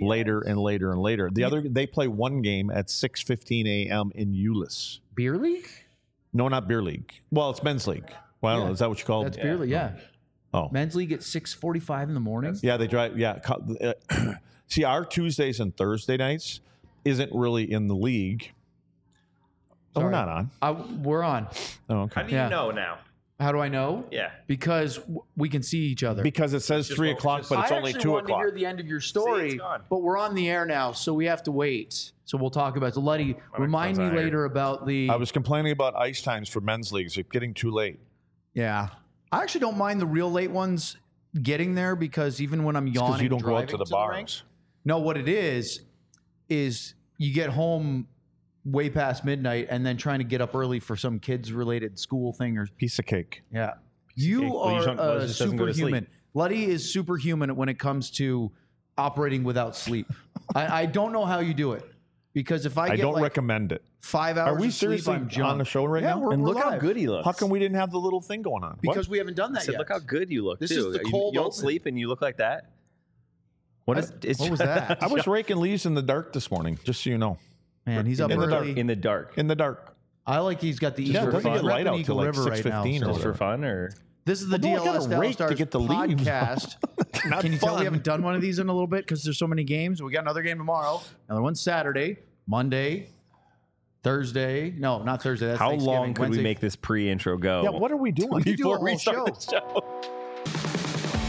later and later and later. They play one game at 6:15 a.m. in Euless. Beer league? No, not beer league. Well, it's men's league. Well, I don't know. Is that what you call it? That's beer league, yeah. Oh. Men's league at 6:45 in the morning? Yeah, they drive. Yeah. See, our Tuesdays and Thursday nights isn't really in the league. Oh, we're not on. We're on. Oh, okay. How do you know now? How do I know? Yeah. Because we can see each other. Because it says 3 o'clock, but it's only 2 I actually wanted to o'clock. hear the end of your story, but we're on the air now, so we have to wait. So we'll talk about it. So, Luddy, remind me later about the... I was complaining about ice times for men's leagues. It's getting too late. Yeah. I actually don't mind the real late ones getting there because even when I'm yawning, because you don't go out to the bars. Rink, no, what it is you get home way past midnight and then trying to get up early for some kids-related school thing or piece of cake. Yeah. You are superhuman. Luddy is superhuman when it comes to operating without sleep. I don't know how you do it because if I don't recommend it. 5 hours Are we of sleep, seriously I'm on the show right now? And look live. how good he looks. How come we didn't have the little thing going on? Because we haven't done that yet. Look how good you look. This too. is the cold You don't open. sleep and you look like that. What was that? I was raking leaves in the dark this morning, just so you know. Man, he's up in early. In the dark. In the dark. I like he's got the Yeah, Easter it doesn't get light out till like River right now. 6:15 or Just whatever. for fun, or This is the Well, no, I DLS gotta Dallas rake to Stars get the leaves. podcast. Not Can you tell fun. we haven't done one of these in a little bit because there's so many games? We got another game tomorrow, another one Saturday, Monday, Thursday. No, not Thursday. That's how Thanksgiving. long could Wednesday. we make this pre-intro go? Yeah, what are we doing? We could do a before whole we start show. the show?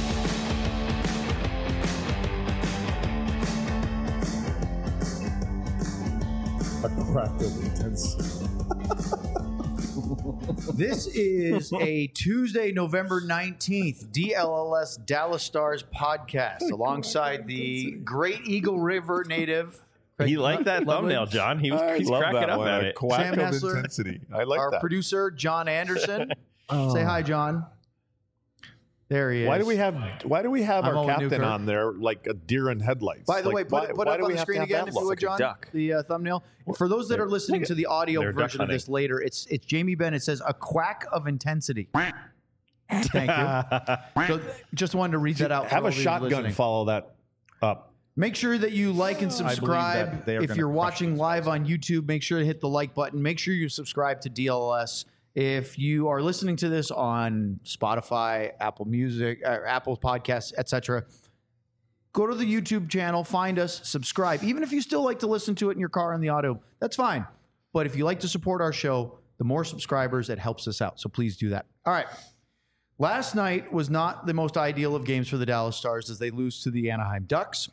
This is a Tuesday, November 19th, DLLS Dallas Stars podcast alongside the Great Eagle River native. He liked that thumbnail, John. He's cracking up at it. Sam Hessler, intensity. I like our that. producer, John Anderson. Say hi, John. There he is. Why do we have I'm our Owen captain Newkirk. on there like a deer in headlights? By the Like, way, put why up do on we the have to screen have again, that if you look? would, John, duck. the thumbnail. For those that are listening to the audio they're duck version of this hunting. later, it's Jamie Benn. It says a quack of intensity. Thank you. So just wanted to read that out. for Have all a of you shotgun listening. follow that up. Make sure that you like and that subscribe. they are If gonna you're crush watching these live on YouTube, make sure to hit the like button. Make sure you subscribe to DLS. If you are listening to this on Spotify, Apple Music, Apple Podcasts, etc., go to the YouTube channel, find us, subscribe. Even if you still like to listen to it in your car on the audio, that's fine. But if you like to support our show, the more subscribers, it helps us out. So please do that. All right. Last night was not the most ideal of games for the Dallas Stars as they lose to the Anaheim Ducks.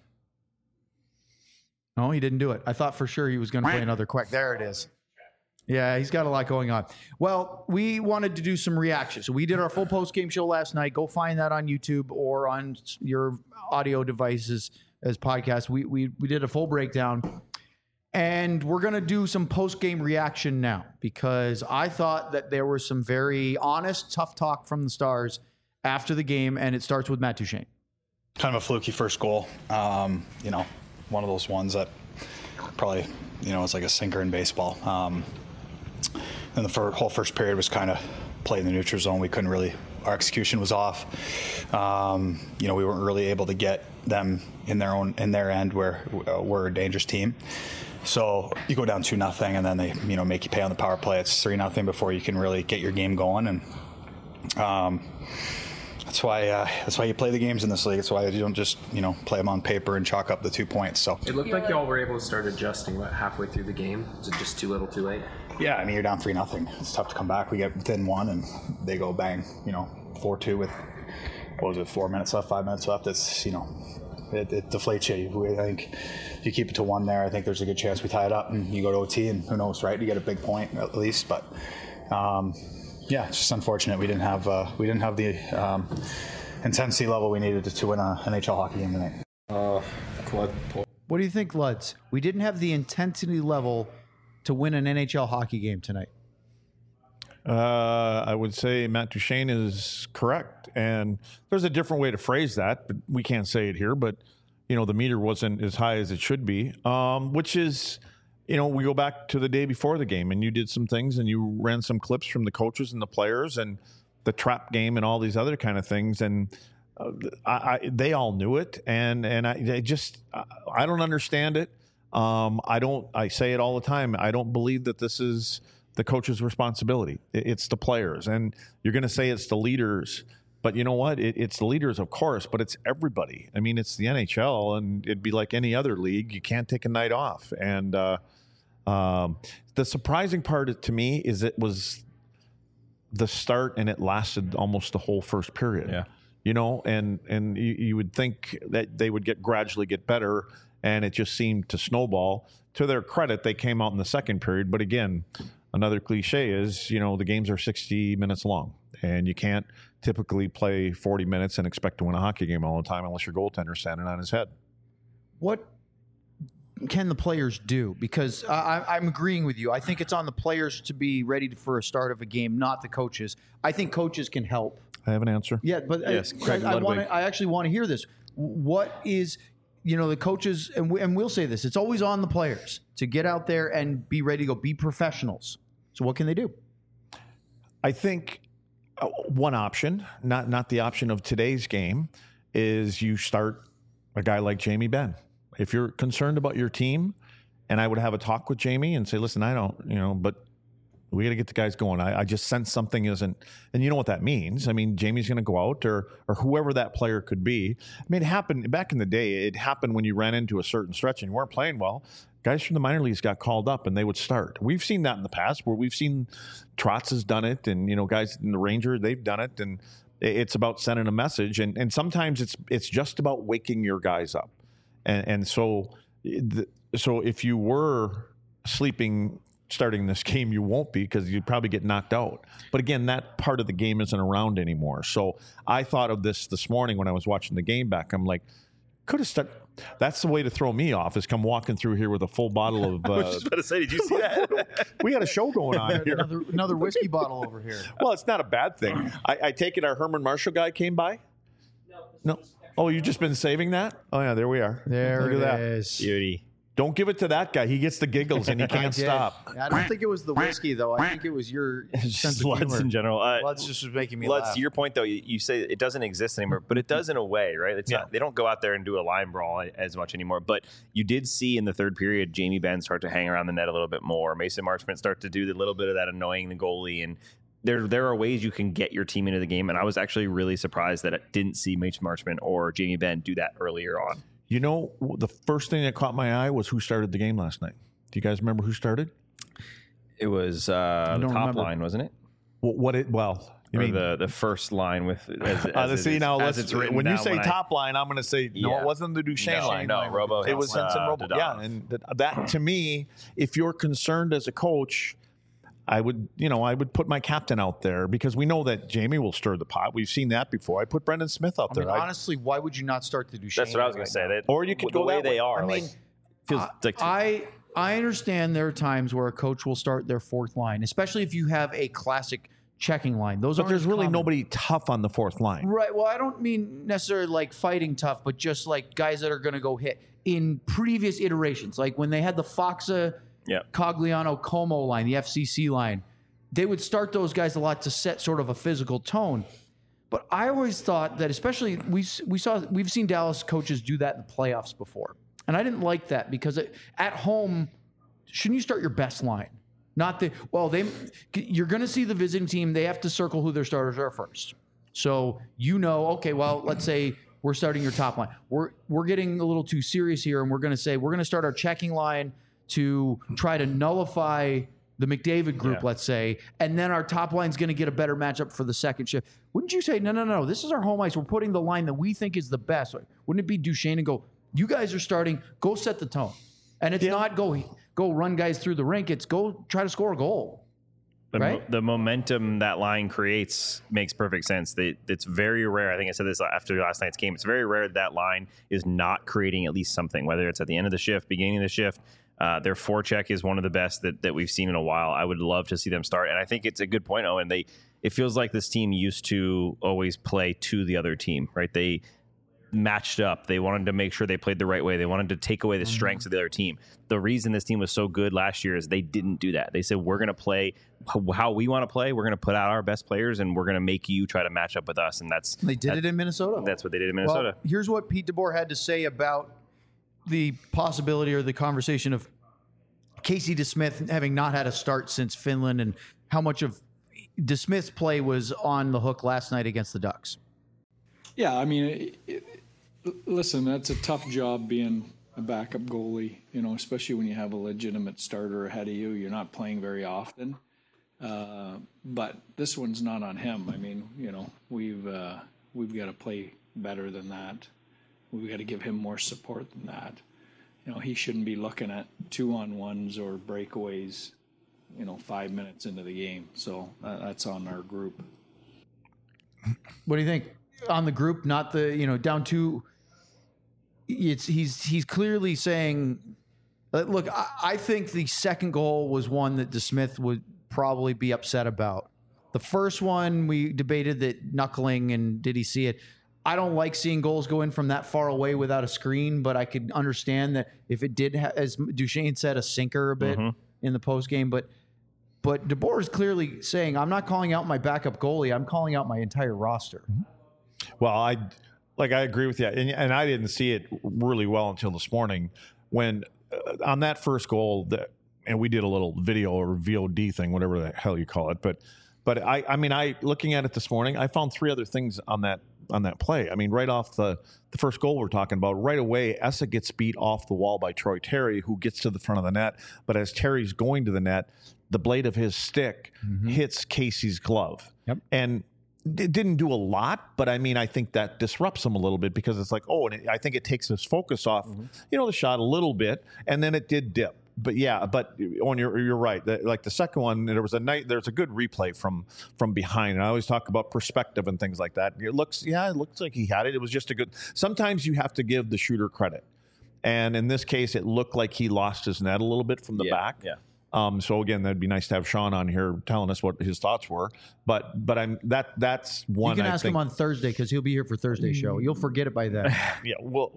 No, he didn't do it. I thought for sure he was going to play another quack. There it is. Yeah, he's got a lot going on. Well, we wanted to do some reactions. So we did our full post-game show last night. Go find that on YouTube or on your audio devices as podcasts. We did a full breakdown. And we're going to do some post-game reaction now because I thought that there was some very honest, tough talk from the Stars after the game, and it starts with Matt Duchene. Kind of a fluky first goal. One of those ones that probably, it's like a sinker in baseball. And the whole first period was kind of played in the neutral zone. We couldn't really, our execution was off. We weren't really able to get them in their end where we're a dangerous team. So you go down 2-0 and then they, make you pay on the power play. It's 3-0 before you can really get your game going. And that's why you play the games in this league. That's why you don't just, play them on paper and chalk up the 2 points. So it looked like y'all were able to start adjusting halfway through the game. Was it just too little too late? Yeah, I mean, you're down 3-0. It's tough to come back. We get within one and they go bang, 4-2 with, 4 minutes left, 5 minutes left. It's, it deflates you. I think if you keep it to one there, I think there's a good chance we tie it up and you go to OT and who knows, right? You get a big point at least, but yeah, it's just unfortunate we didn't have the intensity level we needed to win an NHL hockey game tonight. What do you think, Luds? We didn't have the intensity level to win an NHL hockey game tonight. I would say Matt Duchene is correct. And there's a different way to phrase that, but we can't say it here. But, the meter wasn't as high as it should be, which is, we go back to the day before the game and you did some things and you ran some clips from the coaches and the players and the trap game and all these other kind of things. And they all knew it, and I don't understand it. I say it all the time. I don't believe that this is the coach's responsibility. It's the players, and you're going to say it's the leaders, but you know what? It's the leaders, of course, but it's everybody. I mean, it's the NHL, and it'd be like any other league. You can't take a night off. And the surprising part to me is it was the start, and it lasted almost the whole first period. Yeah. You know, and you would think that they would gradually get better, and it just seemed to snowball. To their credit, they came out in the second period, but again, another cliche is, you know, the games are 60 minutes long, and you can't typically play 40 minutes and expect to win a hockey game all the time unless your goaltender's standing on his head. What can the players do? Because I'm agreeing with you. I think it's on the players to be ready for a start of a game, not the coaches. I think coaches can help. I have an answer. Yeah, but yes, I actually want to hear this. What is, you know, the coaches, and we'll say this, it's always on the players to get out there and be ready to go, be professionals. So what can they do? I think one option, not the option of today's game, is you start a guy like Jamie Benn. If you're concerned about your team, and I would have a talk with Jamie and say, listen, I don't, you know, but we got to get the guys going. I just sense something isn't, and you know what that means. I mean, Jamie's going to go out, or whoever that player could be. I mean, it happened back in the day. It happened when you ran into a certain stretch and you weren't playing well. Guys from the minor leagues got called up and they would start. We've seen that in the past, where we've seen Trotz has done it, and, you know, guys in the Rangers, they've done it, and it's about sending a message. And sometimes it's just about waking your guys up. And so if you were sleeping starting this game, you won't be, because you'd probably get knocked out. But again, that part of the game isn't around anymore. So I thought of this morning when I was watching the game back. I'm like, could have started. That's the way to throw me off, is come walking through here with a full bottle of. I was just about to say, did you see that? We had a show going on here. Another whiskey bottle over here. Well, it's not a bad thing. I take it our Herman Marshall guy came by? No. Oh, you've just been saving that? Oh, yeah, there we are. There Look it at that. is. Beauty. Don't give it to that guy. He gets the giggles and he can't stop. I don't think it was the whiskey, though. I think it was your sense of Sluts humor. in general. Sluts just was making me laugh. To your point, though, you say it doesn't exist anymore, but it does in a way, right? It's not, they don't go out there and do a line brawl as much anymore. But you did see in the third period, Jamie Benn start to hang around the net a little bit more. Mason Marchment start to do a little bit of that annoying the goalie. And there are ways you can get your team into the game. And I was actually really surprised that I didn't see Mason Marchment or Jamie Benn do that earlier on. You know, the first thing that caught my eye was who started the game last night. Do you guys remember who started? It was the top line, wasn't it? The first line with it's written. When you say top line, I'm going to say no. It wasn't the Duchesne line. No, Robo. It was Sensen Robo. Yeah, and that to me, if you're concerned as a coach, I would put my captain out there, because we know that Jamie will stir the pot. We've seen that before. I put Brendan Smith out there. Honestly, why would you not start the Duchesne? That's what I was going to say. Or you could go the way that they way. are. I mean, feels like I understand there are times where a coach will start their fourth line, especially if you have a classic checking line. But there's really nobody tough on the fourth line. Right. Well, I don't mean necessarily like fighting tough, but just like guys that are going to go hit. In previous iterations, like when they had the Foxa, Cogliano, Como line, the FCC line, they would start those guys a lot to set sort of a physical tone. But I always thought that, especially we've seen Dallas coaches do that in the playoffs before. And I didn't like that, because at home, shouldn't you start your best line? You're going to see the visiting team. They have to circle who their starters are first. So, okay, well, let's say we're starting your top line. We're getting a little too serious here, and we're going to say we're going to start our checking line to try to nullify the McDavid group, let's say, and then our top line's going to get a better matchup for the second shift. Wouldn't you say, no, this is our home ice. We're putting the line that we think is the best. Wouldn't it be Duchesne and go, you guys are starting, go set the tone. And it's not go run guys through the rink. It's go try to score a goal. The momentum that line creates makes perfect sense. It's very rare. I think I said this after last night's game. It's very rare that line is not creating at least something, whether it's at the end of the shift, beginning of the shift. Their forecheck is one of the best that we've seen in a while. I would love to see them start. And I think it's a good point, Owen. It feels like this team used to always play to the other team, right? matched up. They wanted to make sure they played the right way. They wanted to take away the strengths of the other team. The reason this team was so good last year is they didn't do that. They said, we're going to play how we want to play. We're going to put out our best players, and we're going to make you try to match up with us. And they did it in Minnesota. That's what they did in Minnesota. Well, here's what Pete DeBoer had to say about the possibility or the conversation of Casey DeSmith having not had a start since Finland, and how much of DeSmith's play was on the hook last night against the Ducks. Yeah, I mean, listen, that's a tough job being a backup goalie, especially when you have a legitimate starter ahead of you. You're not playing very often. But this one's not on him. I mean, we've got to play better than that. We've got to give him more support than that. He shouldn't be looking at 2-on-1s or breakaways, 5 minutes into the game. So that's on our group. What do you think? On the group, not the, down two. He's clearly saying, look, I think the second goal was one that DeSmith would probably be upset about. The first one, we debated that knuckling and did he see it? I don't like seeing goals go in from that far away without a screen, but I could understand that if it did, as Duchesne said, a sinker a bit in the post game. But DeBoer is clearly saying, I'm not calling out my backup goalie. I'm calling out my entire roster. Well, I agree with you, and I didn't see it really well until this morning when on that first goal and we did a little video or VOD thing, whatever the hell you call it. But I mean, looking at it this morning, I found three other things on that play. I mean, right off the first goal we're talking about, right away, Essa gets beat off the wall by Troy Terry, who gets to the front of the net. But as Terry's going to the net, the blade of his stick hits Casey's glove. Yep. And it didn't do a lot, but I mean, I think that disrupts him a little bit because it's like, and I think it takes his focus off, the shot a little bit, and then it did dip. But yeah, you're right. Like the second one, there's a good replay from behind, and I always talk about perspective and things like that. It looks like he had it. It was just a good. Sometimes you have to give the shooter credit, and in this case, it looked like he lost his net a little bit from the back. Yeah. So again, that'd be nice to have Sean on here telling us what his thoughts were. But that's one. You can ask him on Thursday because he'll be here for Thursday's show. You'll forget it by then. Yeah. Well,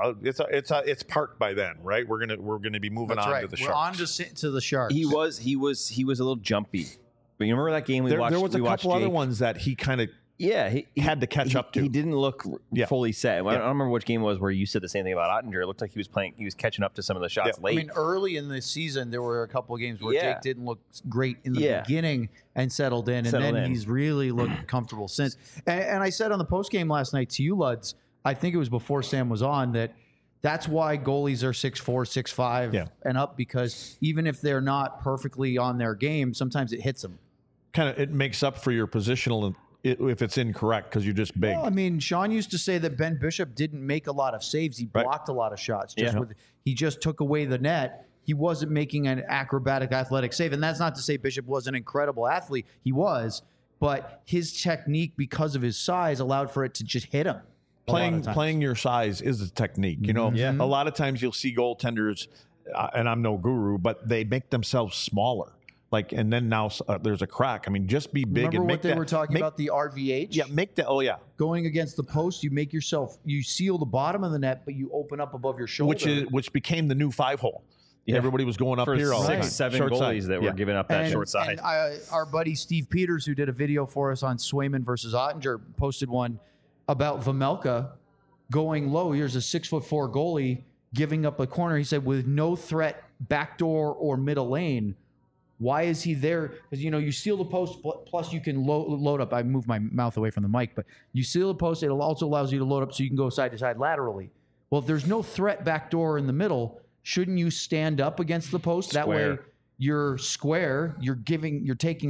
it's parked by then, right? We're gonna be moving that's on right. to the We're Sharks. on to the Sharks. He was a little jumpy. But you remember that game we watched? There was a couple other ones that he kind of. Yeah, he had to catch up to. He didn't look fully set. I don't remember which game it was where you said the same thing about Ottinger. It looked like he was catching up to some of the shots late. I mean, early in the season, there were a couple of games where Jake didn't look great in the beginning and settled in, and then he's really looked comfortable since. And I said on the post game last night to you, Luds, I think it was before Sam was on, that's why goalies are 6'4", 6'5", and up, because even if they're not perfectly on their game, sometimes it hits them. It makes up for your positional if it's incorrect because you're just big. Well, I mean, Sean used to say that Ben Bishop didn't make a lot of saves. He blocked a lot of shots. He just took away the net. He wasn't making an acrobatic athletic save. And that's not to say Bishop was an incredible athlete. He was. But his technique, because of his size, allowed for it to just hit him. Playing your size is a technique. A lot of times you'll see goaltenders, and I'm no guru, but they make themselves smaller. And then now there's a crack. I mean, just be big. Remember what they were talking about, the RVH? Yeah, going against the post, you seal the bottom of the net, but you open up above your shoulder. Which became the new 5-hole. Yeah. Everybody was going up for here all the time. 6-7 goalies that were giving up that short side. And our buddy Steve Peters, who did a video for us on Swayman versus Ottinger, posted one about Vejmelka going low. Here's a 6'4" goalie giving up a corner. He said, with no threat, backdoor or middle lane. Why is he there? Because, you seal the post, plus you can load up. I moved my mouth away from the mic, but you seal the post. It also allows you to load up so you can go side to side laterally. Well, if there's no threat backdoor in the middle, shouldn't you stand up against the post? That way you're square. You're giving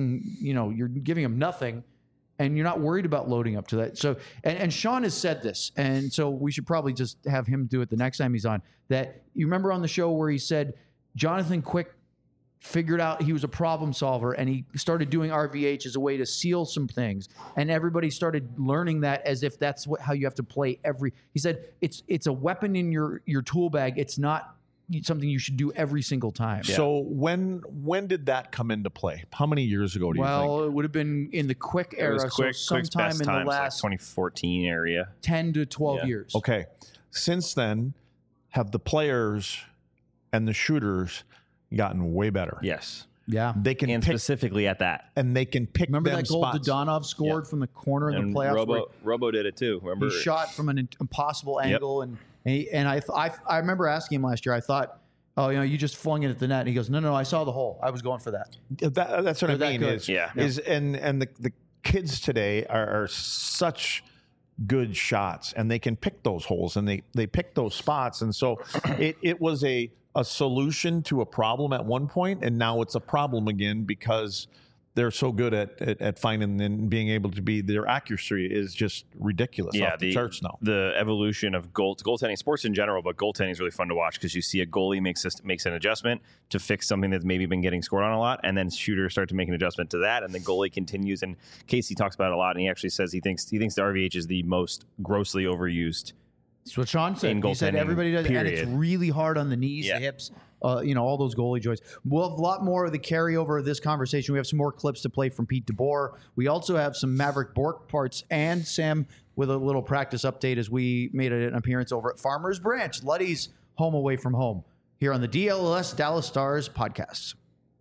him nothing, and you're not worried about loading up to that. So, and Sean has said this, and so we should probably just have him do it the next time he's on. That you remember on the show where he said Jonathan Quick figured out he was a problem solver, and he started doing RVH as a way to seal some things, and everybody started learning that as if that's how you have to play he said it's a weapon in your tool bag. It's not something you should do every single time. So when did that come into play? How many years ago do you think? Well, it would have been in the Quick era, It was Quick's sometime best in the times, last 2014 area. 10 to 12 years. Okay. Since then, have the players and the shooters gotten way better? Yes. Yeah. They can And pick, specifically at that. and they can pick Remember them that goal spots. Dodonov scored from the corner in And the playoffs? where Robo did it too. Remember? he shot from an impossible angle, and I remember asking him last year. I thought, oh, you just flung it at the net. And he goes, no, I saw the hole. I was going for that. That's what I They're that mean. good. And the kids today are such good shots, and they can pick those holes, and they pick those spots, and so it was a solution to a problem at one point, and now it's a problem again because they're so good at finding and being able to be, their accuracy is just ridiculous off the charts now. The evolution of goaltending, sports in general, but goaltending is really fun to watch because you see a goalie makes an adjustment to fix something that's maybe been getting scored on a lot, and then shooters start to make an adjustment to that, and the goalie continues. And Casey talks about it a lot, and he actually says he thinks the RVH is the most grossly overused. That's what Sean said. He said everybody does, and it's really hard on the knees, the hips, all those goalie joints. We'll have a lot more of the carryover of this conversation. We have some more clips to play from Pete DeBoer. We also have some Maverick Bourque parts, and Sam with a little practice update as we made an appearance over at Farmers Branch, Luddy's home away from home, here on the DLS Dallas Stars podcast.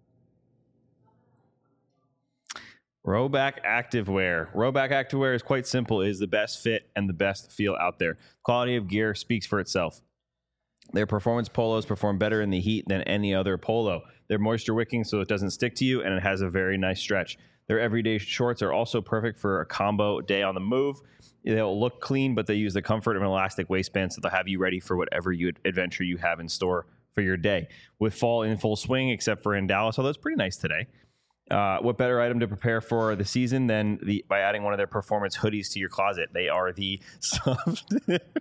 Rhoback Activewear. Rhoback Activewear is quite simple. It is the best fit and the best feel out there. Quality of gear speaks for itself. Their performance polos perform better in the heat than any other polo. They're moisture wicking so it doesn't stick to you, and it has a very nice stretch. Their everyday shorts are also perfect for a combo day on the move. They'll look clean, but they use the comfort of an elastic waistband, so they'll have you ready for whatever adventure you have in store for your day. With fall in full swing, except for in Dallas, although it's pretty nice today. What better item to prepare for the season than by adding one of their performance hoodies to your closet? They are the softest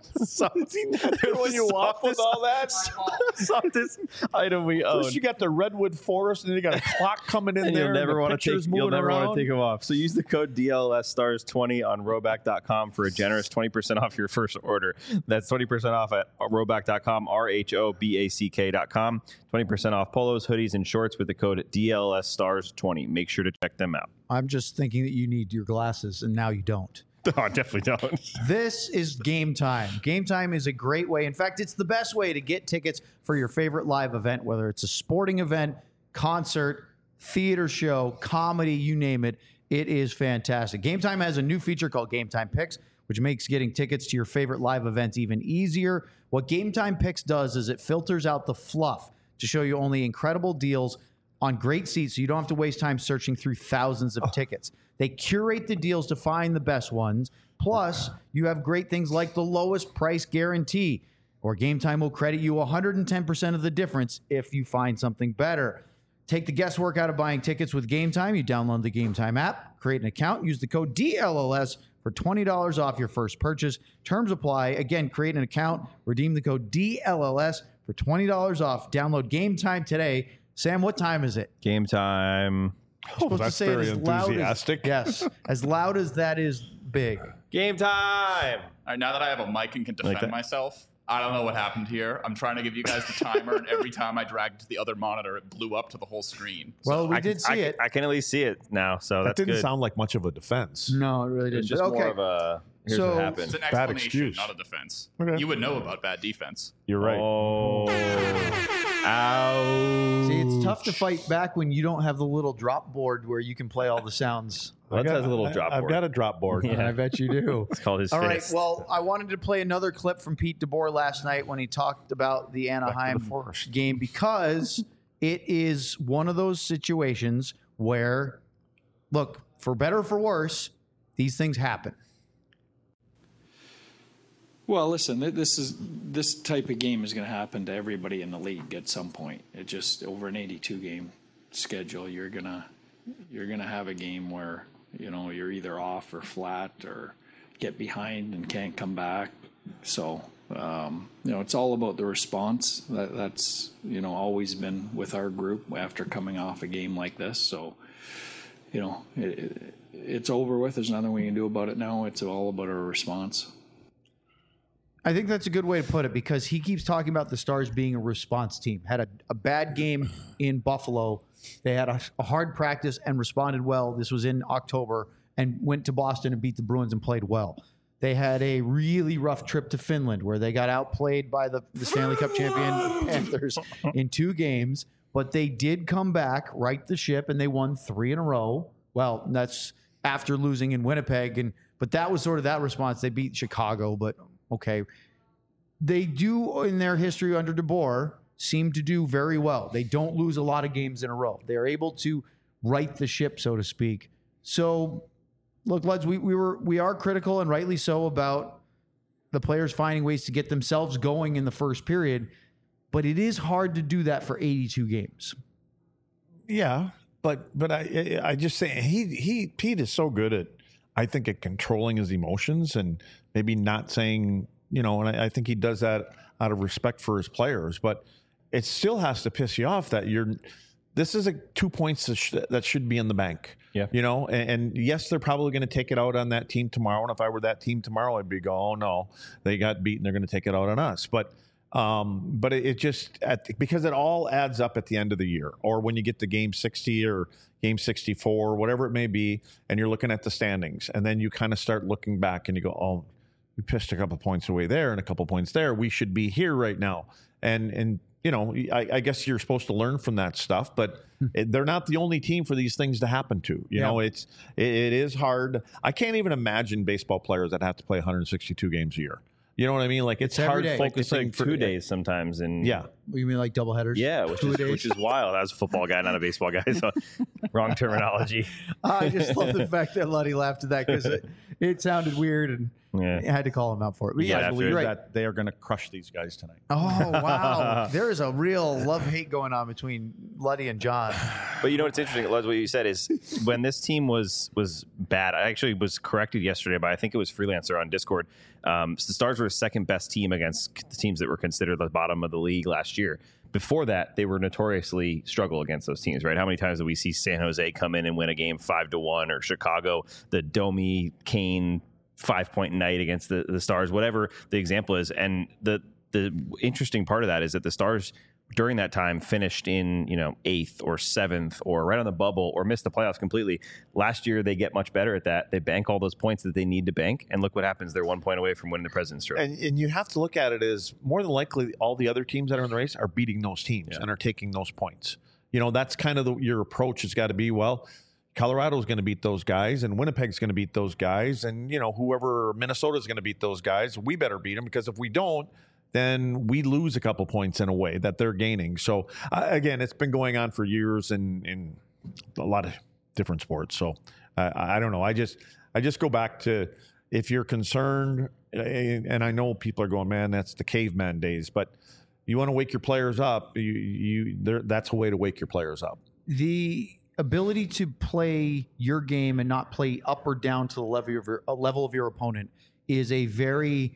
item we own. First, you got the redwood forest, and then you got a clock coming in there. You'll never want to take them off. So use the code DLSstars20 on Rhoback.com for a generous 20% off your first order. That's 20% off at Rhoback.com, RHOBACK.com. 20% off polos, hoodies, and shorts with the code DLSstars20. Make sure to check them out. I'm just thinking that you need your glasses, and now you don't. Oh, I definitely don't. This is Game Time. Game Time is a great way. In fact, it's the best way to get tickets for your favorite live event, whether it's a sporting event, concert, theater show, comedy, you name it. It is fantastic. Game Time has a new feature called Game Time Picks, which makes getting tickets to your favorite live events even easier. What Game Time Picks does is it filters out the fluff to show you only incredible deals on great seats, so you don't have to waste time searching through thousands of tickets. They curate the deals to find the best ones. Plus, you have great things like the lowest price guarantee, or Game Time will credit you 110% of the difference if you find something better. Take the guesswork out of buying tickets with Game Time. You download the Game Time app, create an account, use the code DLLS for $20 off your first purchase. Terms apply. Again, create an account, redeem the code DLLS for $20 off. Download Game Time today. Sam, what time is it? Game time. Oh, that's very enthusiastic. Yes, as loud as that is big. Game time. All right, now that I have a mic and can defend myself, I don't know what happened here. I'm trying to give you guys the timer, and every time I dragged it to the other monitor, it blew up to the whole screen. Well, we did see it. I can at least see it now, so that that's didn't sound like much of a defense. No, it really didn't. It's just more of a, here's what happened. It's an Bad explanation, excuse. not a defense. Okay. You would know about bad defense. You're right. Oh. Ow. See, it's tough to fight back when you don't have the little drop board where you can play all the sounds. Lutz has a little drop board. I've got a drop board. Yeah. I bet you do. It's called his All right. fist. Well, I wanted to play another clip from Pete DeBoer last night when he talked about the Anaheim game, because it is one of those situations where, look, for better or for worse, these things happen. Well, listen, this type of game is going to happen to everybody in the league at some point. It just, over an 82 game schedule, you're gonna have a game where, you know, you're either off or flat or get behind and can't come back. So, you know, it's all about the response. That's, you know, always been with our group after coming off a game like this. So, you know, it's over with. There's nothing we can do about it now. It's all about our response. I think that's a good way to put it, because he keeps talking about the Stars being a response team. Had a bad game in Buffalo. They had a hard practice and responded well. This was in October, and went to Boston and beat the Bruins and played well. They had a really rough trip to Finland where they got outplayed by the Stanley Cup champion Panthers in 2 games, but they did come back, right the ship, and they won 3 in a row. Well, that's after losing in Winnipeg, but that was sort of that response. They beat Chicago, but okay. They do, in their history under DeBoer, seem to do very well. They don't lose a lot of games in a row. They're able to right the ship, so to speak. So, look, Luds, we are critical, and rightly so, about the players finding ways to get themselves going in the first period, but it is hard to do that for 82 games. Yeah, but I just say Pete is so good at, I think, at controlling his emotions and maybe not saying, and I think he does that out of respect for his players, but it still has to piss you off that this is 2 points that should be in the bank. Yeah. And yes, they're probably going to take it out on that team tomorrow. And if I were that team tomorrow, I'd be oh no, they got beaten. They're going to take it out on us. But it just, because it all adds up at the end of the year, or when you get to game 60 or game 64, whatever it may be, and you're looking at the standings, and then you kind of start looking back and you go, oh, we pissed a couple points away there and a couple points there. We should be here right now. And I guess you're supposed to learn from that stuff, but they're not the only team for these things to happen to. It is hard. I can't even imagine baseball players that have to play 162 games a year. You know what I mean? Like, it's hard focusing for 2 days sometimes. And you mean like doubleheaders? Yeah, which is wild. I was a football guy, not a baseball guy, so wrong terminology. I just love the fact that Luddy laughed at that, because it sounded weird, and I had to call him out for it. But I believe that they are going to crush these guys tonight. Oh, wow. There is a real love-hate going on between Luddy and John. But what's interesting, Luz, what you said is when this team was bad, I actually was corrected yesterday by, I think it was Freelancer on Discord. The Stars were the second best team against the teams that were considered the bottom of the league last year. Before that, they were notoriously struggle against those teams, right? How many times did we see San Jose come in and win a game 5-1, or Chicago, the Domi Kane 5-point night against the Stars, whatever the example is. And the interesting part of that is that the Stars during that time finished in 8th or 7th or right on the bubble, or missed the playoffs completely. Last year they get much better at that. They bank all those points that they need to bank, and look what happens. They're 1 point away from winning the President's Trophy. And you have to look at it as, more than likely, all the other teams that are in the race are beating those teams and are taking those points. That's kind of your approach has got to be, well, Colorado's going to beat those guys, and Winnipeg's going to beat those guys, and whoever, Minnesota's going to beat those guys. We better beat them, because if we don't, then we lose a couple points in a way that they're gaining. So again, it's been going on for years in a lot of different sports. So I don't know. I just go back to, if you're concerned, and I know people are going, man, that's the caveman days, but you want to wake your players up. That's a way to wake your players up. The ability to play your game and not play up or down to the level of your opponent is a very